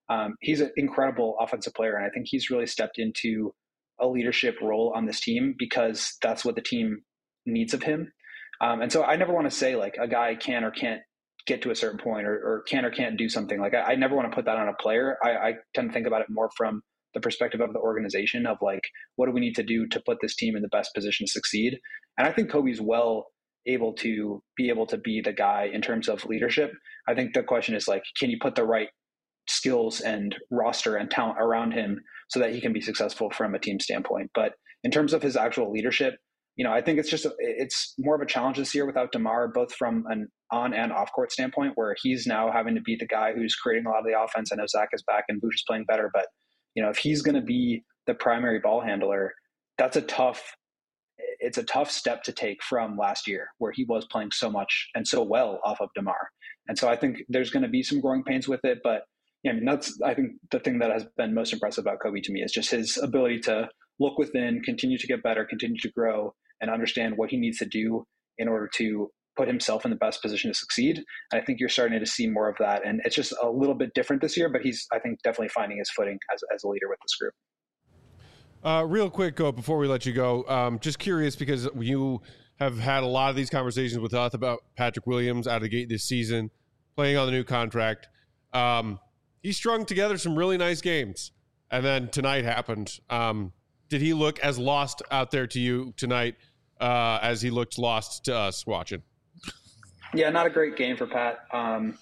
Um, he's an incredible offensive player, and I think he's really stepped into a leadership role on this team because that's what the team needs of him. Um, and so I never want to say like a guy can or can't get to a certain point or, or can or can't do something. Like I, I never want to put that on a player. I, I tend to think about it more from the perspective of the organization of like, what do we need to do to put this team in the best position to succeed? And I think Kobe's well able to be able to be the guy in terms of leadership. I think the question is like, can you put the right skills and roster and talent around him so that he can be successful from a team standpoint? But in terms of his actual leadership, you know, I think it's just, a, it's more of a challenge this year without DeMar, both from an on and off court standpoint, where he's now having to be the guy who's creating a lot of the offense. I know Zach is back and Vooch is playing better, but you know, if he's going to be the primary ball handler, that's a tough, it's a tough step to take from last year where he was playing so much and so well off of DeMar. And so I think there's going to be some growing pains with it, but yeah, I mean, that's, I think the thing that has been most impressive about Kobe to me is just his ability to look within, continue to get better, continue to grow, and understand what he needs to do in order to put himself in the best position to succeed. And I think you're starting to see more of that. And it's just a little bit different this year, but he's, I think, definitely finding his footing as, as a leader with this group. Uh, real quick, Go, before we let you go, um, just curious because you have had a lot of these conversations with us about Patrick Williams out of the gate this season, playing on the new contract. Um, he strung together some really nice games, and then tonight happened. Um, did he look as lost out there to you tonight uh, as he looked lost to us watching? Yeah, not a great game for Pat. Um,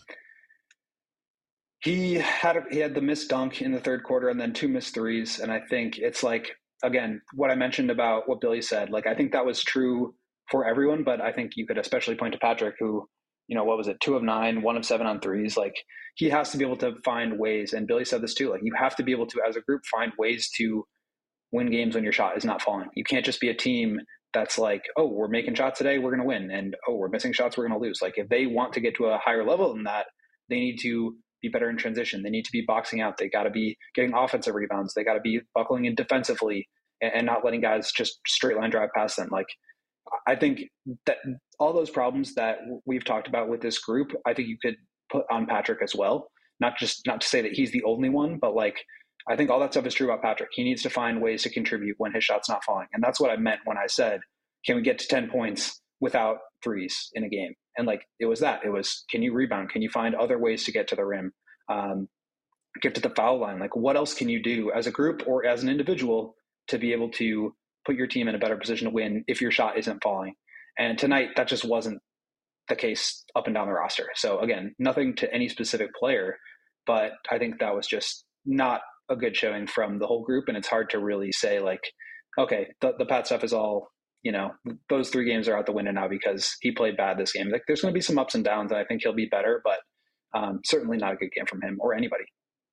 he had a, he had the missed dunk in the third quarter and then two missed threes. And I think it's like, again, what I mentioned about what Billy said, like, I think that was true for everyone, but I think you could especially point to Patrick who, you know, what was it? Two of nine, one of seven on threes. Like he has to be able to find ways. And Billy said this too, like you have to be able to, as a group, find ways to win games when your shot is not falling. You can't just be a team that's like, oh, we're making shots today, we're going to win. And, oh, we're missing shots, we're going to lose. Like if they want to get to a higher level than that, they need to be better in transition. They need to be boxing out. They got to be getting offensive rebounds. They got to be buckling in defensively and, and not letting guys just straight line drive past them. Like I think that all those problems that we've talked about with this group, I think you could put on Patrick as well. Not just, not to say that he's the only one, but like, I think all that stuff is true about Patrick. He needs to find ways to contribute when his shot's not falling. And that's what I meant when I said, can we get to ten points without threes in a game? And like, it was that. It was, can you rebound? Can you find other ways to get to the rim? Um, get to the foul line? Like, what else can you do as a group or as an individual to be able to put your team in a better position to win if your shot isn't falling? And tonight, that just wasn't the case up and down the roster. So again, nothing to any specific player, but I think that was just not a good showing from the whole group. And it's hard to really say like, okay, the, the Pat stuff is all, you know, those three games are out the window now because he played bad this game. Like there's going to be some ups and downs and I think he'll be better, but um, certainly not a good game from him or anybody.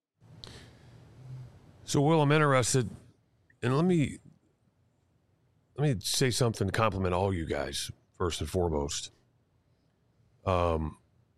So Will, I'm interested, and let me, let me say something to compliment all you guys first and foremost. Um,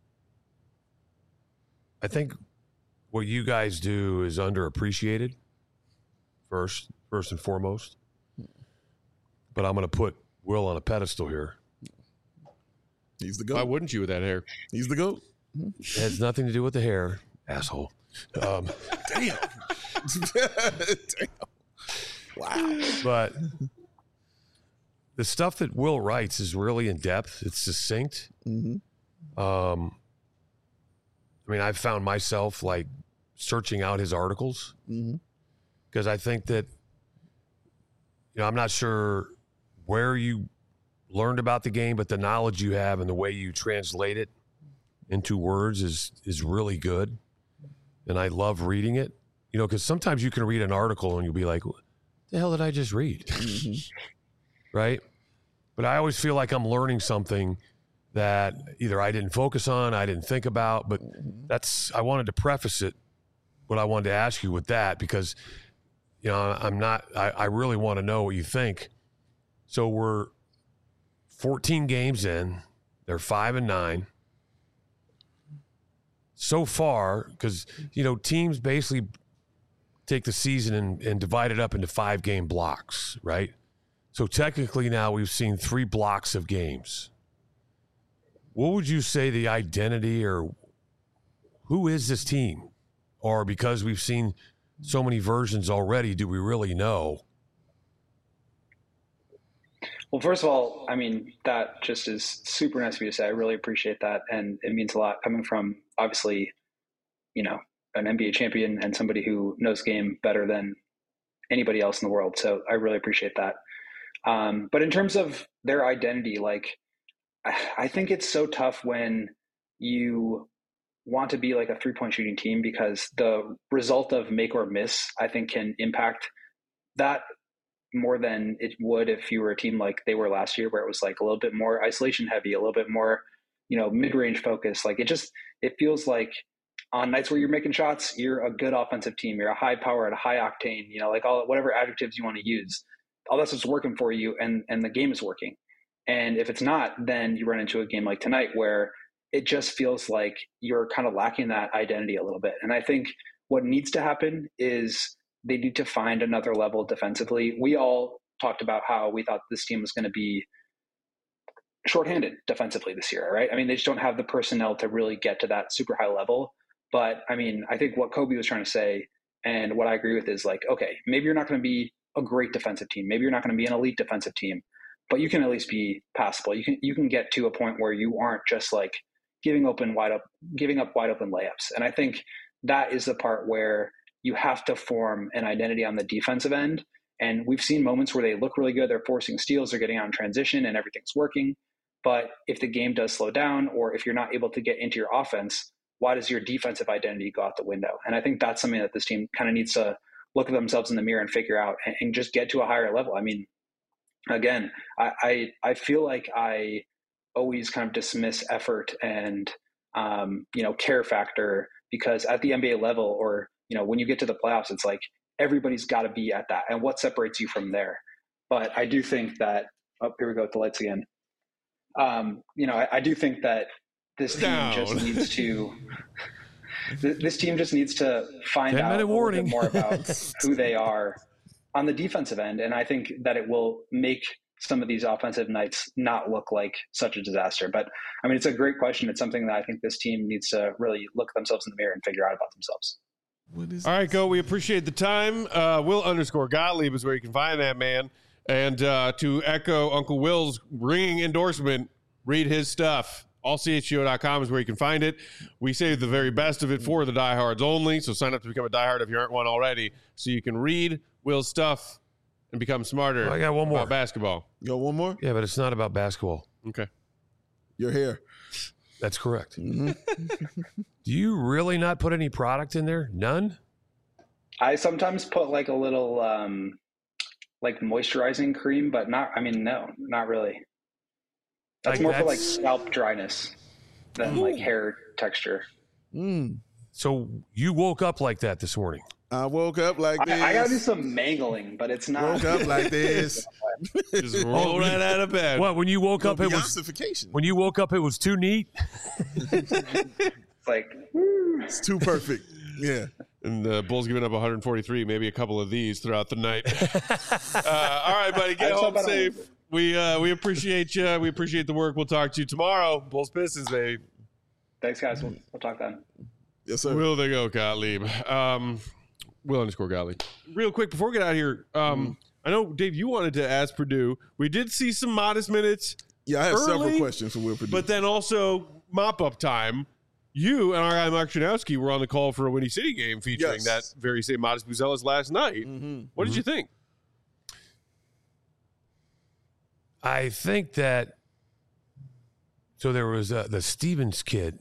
I think what you guys do is underappreciated first, first and foremost. But I'm going to put Will on a pedestal here. He's the GOAT. Why wouldn't you with that hair? He's the GOAT. It has nothing to do with the hair, asshole. Um, Damn. Damn. Wow. But the stuff that Will writes is really in depth. It's succinct. Mm-hmm. Um, I mean, I've found myself like searching out his articles because mm-hmm. I think that, you know, I'm not sure where you learned about the game, but the knowledge you have and the way you translate it into words is is really good. And I love reading it, you know, because sometimes you can read an article and you'll be like, what the hell did I just read? Mm-hmm. Right? But I always feel like I'm learning something that either I didn't focus on, I didn't think about, but that's, I wanted to preface it, what I wanted to ask you with that, because, you know, I'm not, I, I really want to know what you think. So we're fourteen games in, they're five and nine. So far, because, you know, teams basically take the season and, and divide it up into five game blocks, right? So technically now we've seen three blocks of games. What would you say the identity or who is this team Or because we've seen so many versions already, do we really know? Well, first of all, I mean, that just is super nice of you to say. I really appreciate that. And it means a lot coming from, obviously, you know, an N B A champion and somebody who knows game better than anybody else in the world. So I really appreciate that. Um, but in terms of their identity, like, I, I think it's so tough when you want to be like a three-point shooting team, because the result of make or miss, I think, can impact that more than it would if you were a team like they were last year, where it was like a little bit more isolation heavy, a little bit more, you know, mid-range focus. Like it just, it feels like on nights where you're making shots, you're a good offensive team. You're a high power and a high octane, you know, like all, whatever adjectives you want to use, all that's what's working for you. And, and the game is working. And if it's not, then you run into a game like tonight where it just feels like you're kind of lacking that identity a little bit. And I think what needs to happen is they need to find another level defensively. We all talked about how we thought this team was going to be shorthanded defensively this year, right? I mean, they just don't have the personnel to really get to that super high level. But I mean, I think what Kobe was trying to say, and what I agree with, is like, okay, maybe you're not going to be a great defensive team. Maybe you're not going to be an elite defensive team, but you can at least be passable. You can, you can get to a point where you aren't just like giving open wide up, giving up wide open layups. And I think that is the part where you have to form an identity on the defensive end. And we've seen moments where they look really good. They're forcing steals, they're getting out in transition, and everything's working. But if the game does slow down, or if you're not able to get into your offense, why does your defensive identity go out the window? And I think that's something that this team kind of needs to look at themselves in the mirror and figure out, and, and just get to a higher level. I mean, again, I, I, I feel like I always kind of dismiss effort and, um, you know, care factor, because at the N B A level, or, you know, when you get to the playoffs, it's like everybody's got to be at that. And what separates you from there? But I do think that, oh, here we go with the lights again. Um, you know, I, I do think that this team Down. just needs to, th- this team just needs to find ten out minute a little warning. bit more about who they are on the defensive end. And I think that it will make some of these offensive nights not look like such a disaster. But I mean, it's a great question. It's something that I think this team needs to really look at themselves in the mirror and figure out about themselves. What is All right, go. We appreciate the time. Uh, Will underscore Gottlieb is where you can find that man. And uh, to echo Uncle Will's ringing endorsement, read his stuff. all c h g o dot com is where you can find it. We save the very best of it for the diehards only. So sign up to become a diehard if you aren't one already, so you can read Will's stuff and become smarter. Oh, I got one more. about basketball. You got one more? Yeah, but it's not about basketball. Okay. Your hair. That's correct. Mm-hmm. Do you really not put any product in there? None? I sometimes put like a little um, like moisturizing cream, but not, I mean, no, not really. That's Like more for like that's- scalp dryness than like hair texture. Mm. So you woke up like that this morning. I woke up like I, this. I gotta do some mangling, but it's not. Woke up like this. Just roll right out of bed. What, when you woke up, it was Beyonce-fication. when you woke up, it was too neat. It's like, It's too perfect. Yeah. And the Bulls giving up one hundred forty-three, maybe a couple of these throughout the night. uh, all right, buddy, get I saw home that on- safe. We uh, we appreciate you. We appreciate the work. We'll talk to you tomorrow. Bulls Pistons, baby. thanks, guys. We'll, we'll talk then. Yes, sir. Will they go, Gottlieb? Um, Will underscore Gottlieb. Real quick, before we get out of here, um, I know, Dave, you wanted to ask Purdue. We did see some modest minutes, Yeah, I have several early, questions for Will Purdue. but then also mop-up time. You and our guy Mark Chanowski were on the call for a Windy City game featuring Yes. that very same Modest Buzelis last night. Mhm. What did you think? I think that. So there was uh, the Stevens kid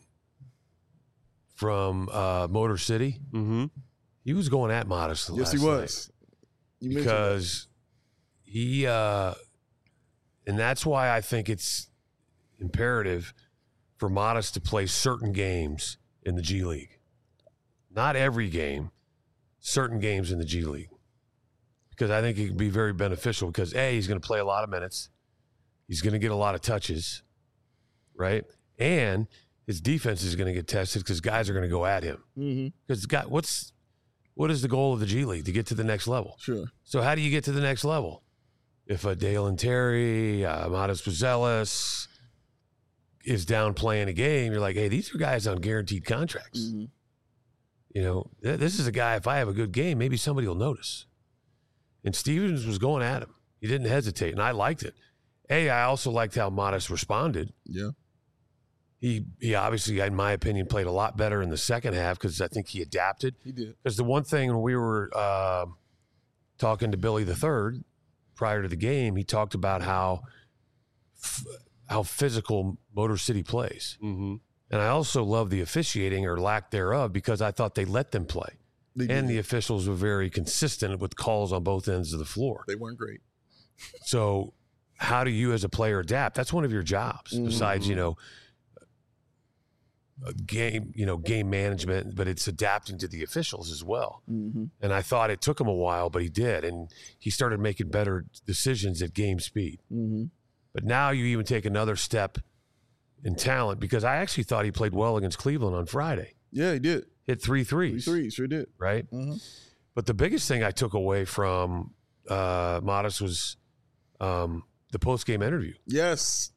from uh, Motor City. Mm-hmm. He was going at Modest Yes, last he night was. You mentioned that. because he, uh, and that's why I think it's imperative for Modest to play certain games in the G League. Not every game, certain games in the G League. Because I think it can be very beneficial because, A, he's going to play a lot of minutes. He's going to get a lot of touches, right? And his defense is going to get tested because guys are going to go at him. Mhm. Because guy, what's what is the goal of the G League? To get to the next level. Sure. So how do you get to the next level? If a Dalen Terry, uh, Modest Buzelis is down playing a game, you're like, hey, these are guys on guaranteed contracts. Mhm. you know, th- this is a guy, if I have a good game, maybe somebody will notice. And Stevens was going at him. He didn't hesitate, and I liked it. A, I also liked how Modest responded. Yeah. He he obviously, in my opinion, played a lot better in the second half because I think he adapted. He did. Because the one thing when we were uh, talking to Billy the Third prior to the game, he talked about how f- how physical Motor City plays. Mm-hmm. And I also love the officiating or lack thereof because I thought they let them play. They And did. the officials were very consistent with calls on both ends of the floor. They weren't great. So how do you as a player adapt? That's one of your jobs besides, you know, a game, you know, game management, but it's adapting to the officials as well. Mm-hmm. And I thought it took him a while, but he did. And he started making better decisions at game speed. Mm-hmm. But now you even take another step in talent because I actually thought he played well against Cleveland on Friday. Yeah, he did. Hit three Three threes, threes, sure did. right? Mm-hmm. But the biggest thing I took away from uh, Modest was um, the post-game interview. Yes.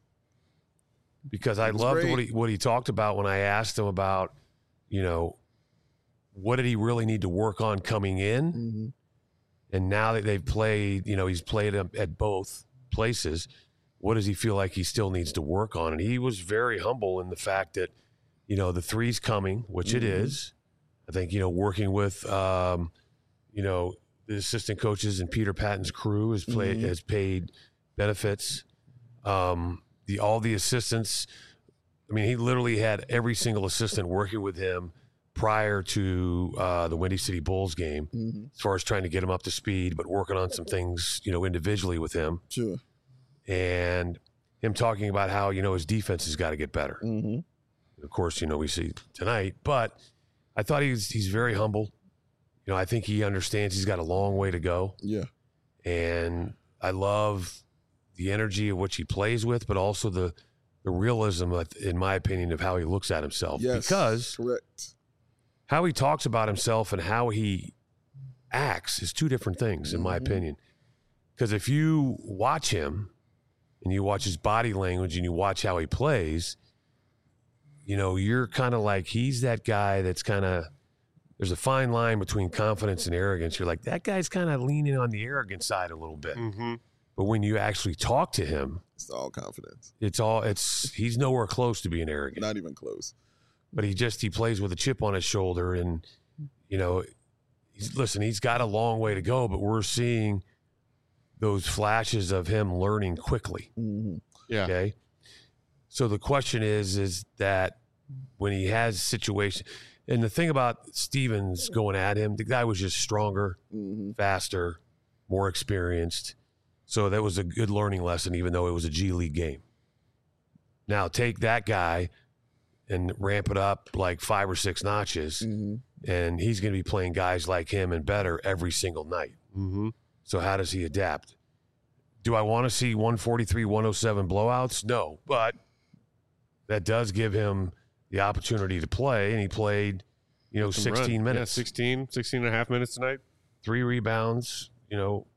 Because I It was loved great. what he what he talked about when I asked him about, you know, what did he really need to work on coming in, Mm-hmm. and now that they've played, you know, he's played at at both places. What does he feel like he still needs to work on? And he was very humble in the fact that, you know, the three's coming, which it Mhm. is. I think, you know, working with, um, you know, the assistant coaches and Peter Patton's crew has played Mhm. has paid benefits. Um, the all the assistants. I mean, he literally had every single assistant working with him prior to uh, the Windy City Bulls game, Mm-hmm. as far as trying to get him up to speed, but working on some things, you know, individually with him, Sure. and him talking about how, you know, his defense has got to get better. Mm-hmm. Of course, you know, we see tonight, but I thought he's he's very humble. You know, I think he understands he's got a long way to go, Yeah. and I love the energy of which he plays with, but also the the realism, of- in my opinion, of how he looks at himself. Yes. Because Correct. how he talks about himself and how he acts is two different things, in my Mhm. opinion. Because if you watch him and you watch his body language and you watch how he plays, you know, you're kind of like, he's that guy that's kind of, there's a fine line between confidence and arrogance. You're like, that guy's kind of leaning on the arrogant side a little bit. Mm-hmm. But when you actually talk to him, It's all confidence. it's all, it's, he's nowhere close to being arrogant. Not even close. But he just, he plays with a chip on his shoulder. And, you know, he's, listen, he's got a long way to go, but we're seeing those flashes of him learning quickly. Mm-hmm. Yeah. Okay. So the question is, is that when he has situation, and the thing about Stevens going at him, the guy was just stronger, Mm-hmm. faster, more experienced. So that was a good learning lesson, even though it was a G League game. Now take that guy and ramp it up like five or six notches, Mm-hmm. and he's going to be playing guys like him and better every single night. Mm-hmm. So how does he adapt? Do I want to see one forty-three, one oh seven blowouts? No, but that does give him the opportunity to play, and he played, you know, Some run. sixteen Yeah, minutes, sixteen, sixteen and a half minutes tonight. three rebounds, you know,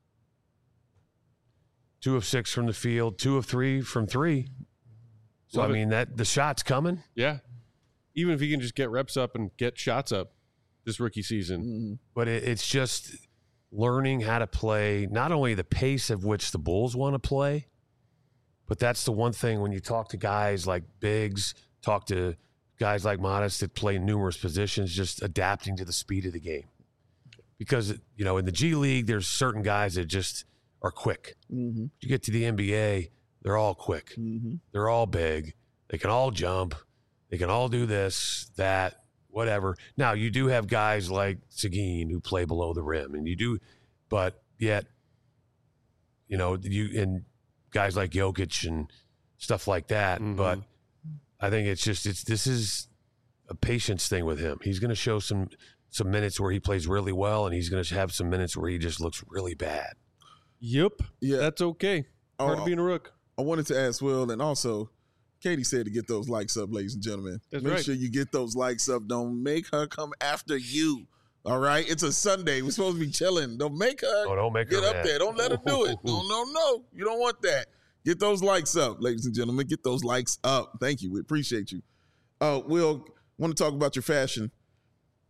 two of six from the field, two of three from three. So, Love I it. mean, that the shot's coming. Yeah. Even if he can just get reps up and get shots up this rookie season. Mm-hmm. But it, it's just learning how to play not only the pace of which the Bulls want to play, but that's the one thing when you talk to guys like Biggs, talk to guys like Modest that play numerous positions, just adapting to the speed of the game. Because, you know, in the G League, there's certain guys that just are quick. Mm-hmm. You get to the N B A, they're all quick. Mm-hmm. They're all big. They can all jump. They can all do this, that, whatever. Now, you do have guys like Seguin who play below the rim, and you do, but yet, you know, you and guys like Jokic and stuff like that. Mhm. But I think it's just it's this is a patience thing with him. He's going to show some some minutes where he plays really well, and he's going to have some minutes where he just looks really bad. Yep. Yeah. That's okay. Part Oh, of being a rook. I wanted to ask Will, and also Katie said to get those likes up, ladies and gentlemen. That's Make right. sure you get those likes up. Don't make her come after you. All right? It's a Sunday. We're supposed to be chilling. Don't make her Oh, don't make get her up mad. there. Don't let her do it. No, no, no. You don't want that. Get those likes up, ladies and gentlemen. Get those likes up. Thank you. We appreciate you. Uh, Will, want to talk about your fashion.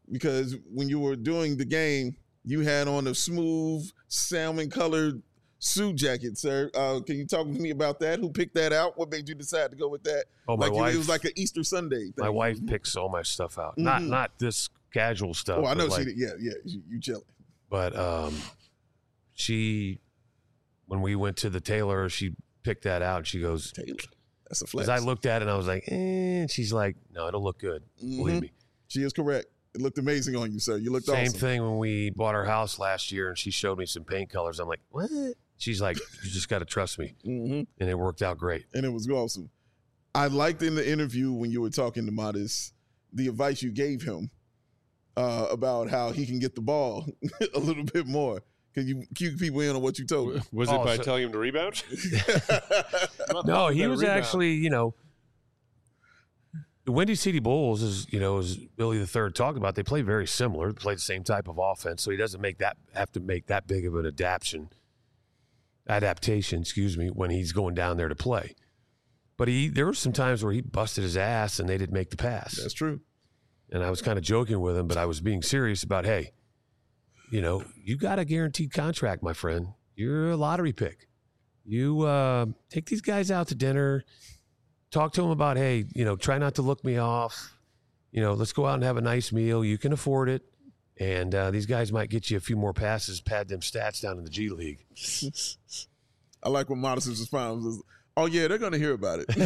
because when you were doing the game, you had on a smooth salmon-colored suit jacket, sir. Uh, can you talk to me about that? Who picked that out? What made you decide to go with that? Oh, my like you- wife. It was like an Easter Sunday thing. My wife picks all my stuff out. Not Mhm. not this casual stuff. Oh, I but know like, she did. Yeah, yeah. You, you chilling. But um, she, when we went to the tailor, she picked that out. She goes, Taylor. That's a flex. because I looked at it and I was like, eh. And she's like, no, it'll look good. Believe Mhm. me. She is correct. It looked amazing on you, sir. You looked Same awesome. thing when we bought our house last year and she showed me some paint colors. I'm like, what? She's like, you just got to trust me. hmm And it worked out great. And it was awesome. I liked in the interview when you were talking to Modest, the advice you gave him uh, about how he can get the ball a little bit more. Can you cue people in on what you told him? Was it Oh, by so- telling him to rebound? No, he Better was rebound. actually, you know, the Windy City Bulls is, you know, as Billy the Third talked about, they play very similar. They play the same type of offense, so he doesn't make that have to make that big of an adaptation, adaptation, excuse me, when he's going down there to play. But he, there were some times where he busted his ass and they didn't make the pass. That's true. And I was kind of joking with him, but I was being serious about, hey, you know, you got a guaranteed contract, my friend. You're a lottery pick. You uh, take these guys out to dinner. Talk to them about, hey, you know, try not to look me off. You know, let's go out and have a nice meal. You can afford it. And uh, these guys might get you a few more passes, pad them stats down in the G League. I like when Modest's response was, oh, yeah, they're going to hear about it.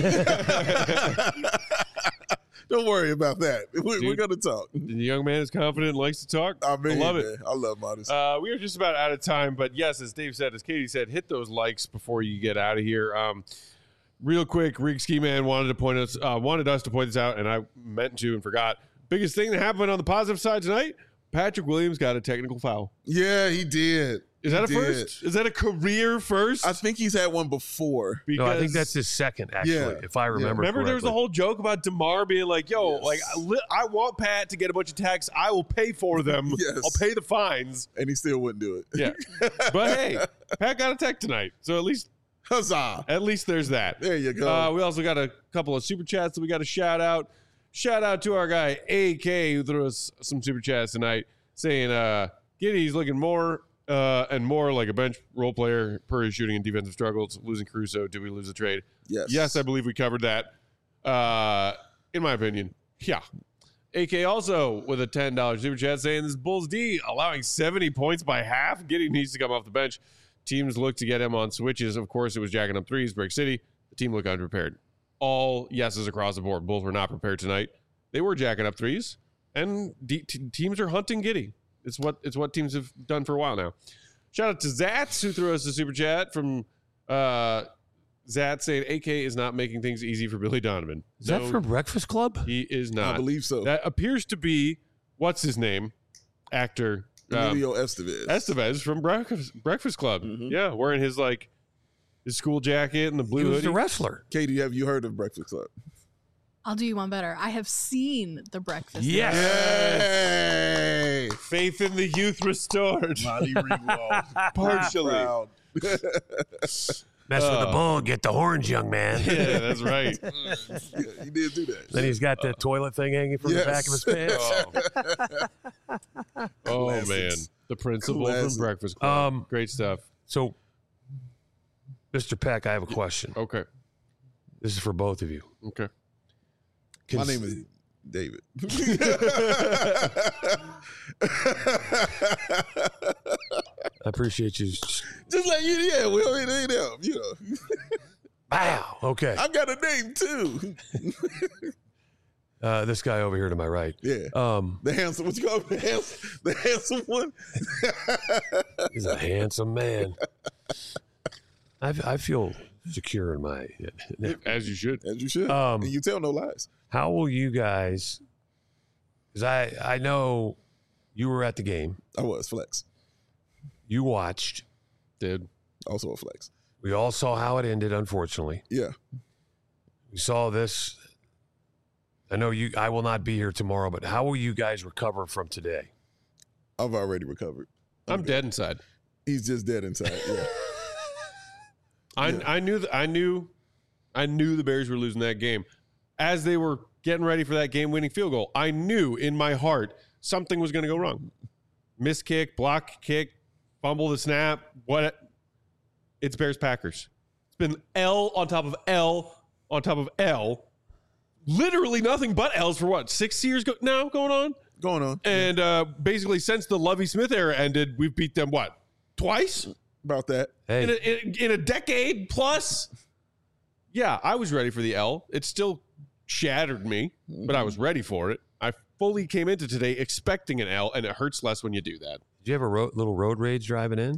Don't worry about that. We, we're Dude. going to talk. The young man is confident and likes to talk. I, mean, love it. man, I love Modest. Uh, we are just about out of time, but yes, as Dave said, as Katie said, hit those likes before you get out of here. Um, real quick, Rig Ski Man wanted to point us, uh, wanted us to point this out, and I meant to and forgot. Biggest thing that happened on the positive side tonight: Patrick Williams got a technical foul. yeah, he did. Is that He a did. first? Is that a career first? I think he's had one before. No, I think that's his second, actually, Yeah. if I remember Remember, there was correctly. the whole joke about DeMar being like, "Yo, Yes. like I, li- I want Pat to get a bunch of tags. I will pay for them. Yes. I'll pay the fines." And he still wouldn't do it. Yeah, but hey, Pat got a tech tonight, so at least Huzzah. at least there's that. There you go. Uh, we also got a couple of super chats that we got to shout out. Shout out to our guy A K who threw us some super chats tonight, saying uh, Giddy's looking more uh, and more like a bench role player per his shooting and defensive struggles. Losing Caruso, did we lose the trade? yes. Yes, I believe we covered that. Uh, in my opinion, yeah. A K also with a ten dollars super chat saying this Bulls D allowing seventy points by half. Giddy needs to come off the bench. Teams look to get him on switches. Of course, it was jacking up threes, Brick City. The team looked unprepared. All yeses across the board. Bulls were not prepared tonight. They were jacking up threes, and D- t- teams are hunting Giddy. It's what it's what teams have done for a while now. Shout out to Zats who threw us a super chat from uh, Zat saying A K is not making things easy for Billy Donovan. Is that No, from Breakfast Club? he is I not. believe so. That appears to be what's his name, actor um, Emilio Estevez. Estevez from Breakfast Breakfast Club. Mhm. Yeah, wearing his like his school jacket and the He blue was hoodie. the wrestler. Katie, have you heard of Breakfast Club? I'll do you one better. I have seen The Breakfast Yes. Hey! Faith in the youth restored. Molly Ringwald. Partially. Proud. Mess with Uh, the bull, get the horns, young man. Yeah, that's right. Yeah, he did do that. Then he's got the toilet thing hanging from the back of his Yes. pants. Oh, oh man, Classics. the principal Classic. from Breakfast Club. Um, Great stuff. So, Mister Peck, I have a question. Okay, This is for both of you. okay. My Cons- name is David. I appreciate you. Just like you, yeah, we already ain't them, you know. Wow. Okay. I got a name too. Uh, this guy over here to my right. Yeah. Um, The handsome, what you call him? The handsome, the handsome one? he's a handsome man. I, I feel secure in my. As you should. As you should. Um, and you tell no lies. How will you guys? Because I I know you were at the game. I was flex. You watched. Did Also a flex. We all saw how it ended. Unfortunately, Yeah. we saw this. I know you. I will not be here tomorrow, but how will you guys recover from today? I've already recovered. I'm dead inside. He's just dead inside. Yeah. I Yeah. I knew that I knew I knew the Bears were losing that game. As they were getting ready for that game-winning field goal, I knew in my heart something was going to go wrong. Miss kick, block kick, fumble the snap. What? It's Bears Packers. It's been L on top of L on top of L. Literally nothing but L's for what? Six years go- now going on? Going on. And uh, basically, since the Lovie Smith era ended, we've beat them what? Twice? About that. Hey, In a, in, in a decade plus? Yeah, I was ready for the L. It still shattered me, but I was ready for it. I fully came into today expecting an L, and it hurts less when you do that. did you have a ro- little road rage driving in?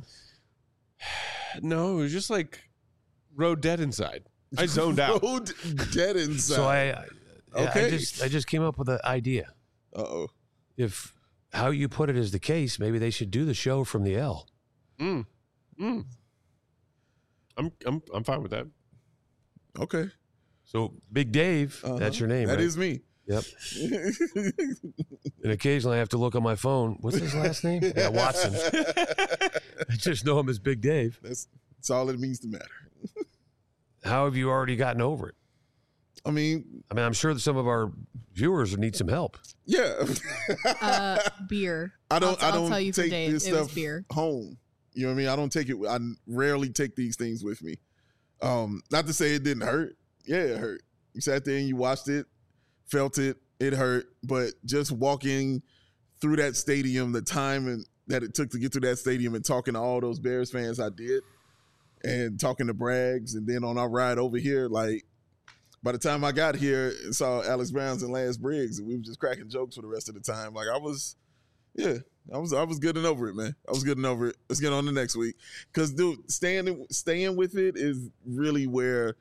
No, it was just like road dead inside. I zoned out. Road dead inside. So I, I, Okay. I just I just came up with an idea. Uh-oh. If how you put it is the case, maybe they should do the show from the L. Mm. Mm. I'm I'm I'm fine with that. Okay. So Big Dave, Uh-huh. that's your name, That right? is me. Yep. And occasionally I have to look on my phone. What's his last name? Yeah, Watson. I just know him as Big Dave. That's, that's all it means to matter. How have you already gotten over it? I mean, I mean, I'm sure that some of our viewers need some help. yeah. Uh, beer. I don't. I'll, I don't I'll tell you for take Dave, this it was stuff beer. home. You know what I mean? I don't take it. I rarely take these things with me. Um, not to say it didn't hurt. Yeah, it hurt. You sat there and you watched it, felt it. It hurt, but just walking through that stadium, the time and that it took to get through that stadium, and talking to all those Bears fans, I did, and talking to Braggs, and then on our ride over here, like. By the time I got here and saw Alex Browns and Lance Briggs, we were just cracking jokes for the rest of the time. Like I was, yeah, I was, I was getting over it, man. I was getting over it. Let's get on to next week, because dude, staying, staying with it is really where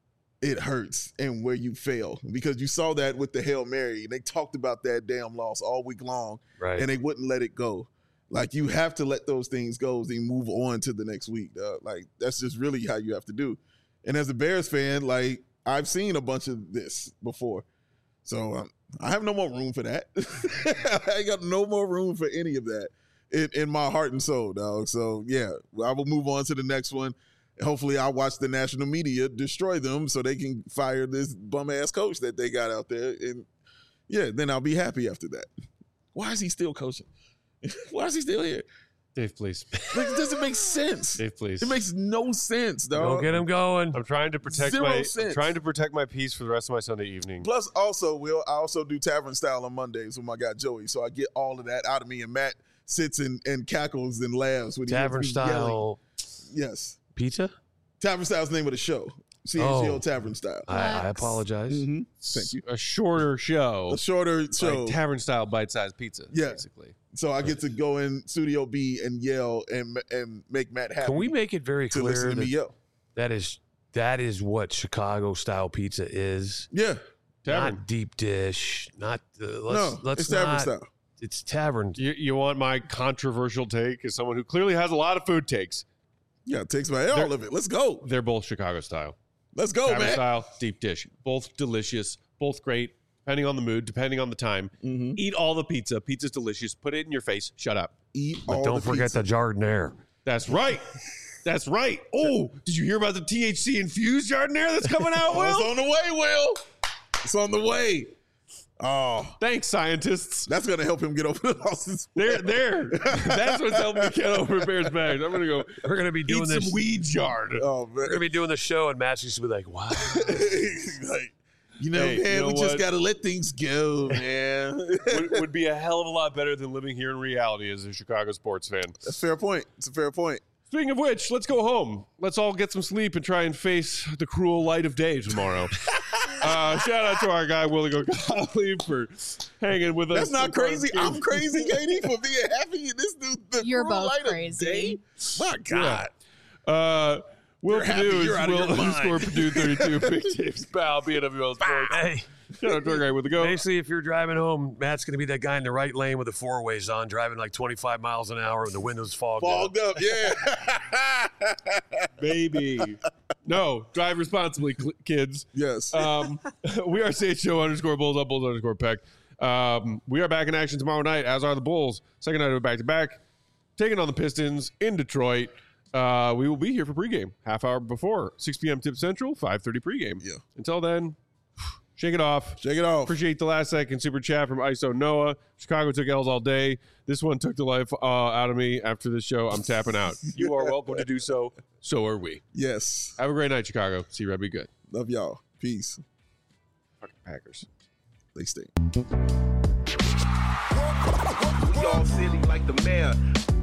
it hurts and where you fail, because you saw that with the Hail Mary. They talked about that damn loss all week long, Right. and they wouldn't let it go. Like you have to let those things go and move on to the next week. Dog. Like that's just really how you have to do. And as a Bears fan, like. I've seen a bunch of this before. So um, I have no more room for that. I ain't got no more room for any of that in, in my heart and soul, dog. So, yeah, I will move on to the next one. Hopefully I'll watch the national media destroy them so they can fire this bum-ass coach that they got out there. And, yeah, then I'll be happy after that. Why is he still coaching? Why is he still here? Dave, please. Like, it doesn't make sense. Dave, please. It makes no sense, dog. Don't get him going. I'm trying to protect Zero my I'm sense. trying to protect my peace for the rest of my Sunday evening. Plus, also, Will, I also do Tavern Style on Mondays with my guy Joey, so I get all of that out of me. And Matt sits and, and cackles and laughs when he hears Tavern me yelling. style Yes, pizza? Tavern Style's the name of the show. C H G O Oh. Tavern Style. I, I Flex. apologize. Mm-hmm. Thank you. A shorter show, A shorter show. like tavern style bite-sized pizza. Yeah. Basically. So I get to go in Studio B and yell and and make Matt happy. Can we make it very to listen clear to me that, yell? that is that is what Chicago style pizza is? Yeah. Tavern. Not deep dish. Not uh, let's no, let's it's Tavern not, Style. It's tavern. You, you want my controversial take as someone who clearly has a lot of food takes? Yeah, it takes my all of it. Let's go. They're both Chicago style. Let's go, Tavern man. style, deep dish. Both delicious, both great, depending on the mood, depending on the time. Mm-hmm. Eat all the pizza. Pizza's delicious. Put it in your face. Shut up. Eat But all don't the forget pizza. the Jardiniere. That's right. That's right. Oh, did you hear about the T H C infused Jardiniere that's coming out, Oh, it's Will? on the way, Will. It's on the way. Oh, Thanks, scientists. that's gonna help him get over the losses. There, there. That's what's helping me get over Bears bags. I'm gonna go We're gonna be doing eat this. some weed yard. Oh We're gonna man, be doing the show, and Matt's just gonna be like, "Wow." like, you know, Hey, man, you know we just what? gotta let things go, man. would, would be a hell of a lot better than living here in reality as a Chicago sports fan. That's a fair point. It's a fair point. Speaking of which, let's go home. Let's all get some sleep and try and face the cruel light of day tomorrow. uh, shout out to our guy, Willie Gottlieb, for hanging with us. That's not crazy. I'm crazy, Katie, for being happy. And this dude, the You're cruel both light of crazy. day? My God. Uh, Will You're happy, Purdue is you're out of Will your mind. underscore Purdue thirty-two. Big Dave's pal, B N W L Sports. Hey, Shout out to our guy with the go. basically, if you're driving home, Matt's gonna be that guy in the right lane with the four ways on, driving like twenty-five miles an hour, and the windows fogged. up. Fogged up, yeah. Baby. No, drive responsibly, cl- kids. yes. Um, we are C H O underscore Bulls up, Bulls underscore Peck. Um, we are back in action tomorrow night, as are the Bulls. Second night of a back-to-back. Taking on the Pistons in Detroit. Uh, we will be here for pregame, half hour before, six p.m. Tip Central, five thirty pregame. Yeah. Until then, Shake it off. Shake it off. Appreciate the last second super chat from I S O Noah. Chicago took L's all day. This one took the life uh, out of me. After this show, I'm tapping out. You are welcome to do so. So are we. Yes. Have a great night, Chicago. See Red be good. Love y'all. Peace. Fucking Packers. They stink. We all silly like the mayor.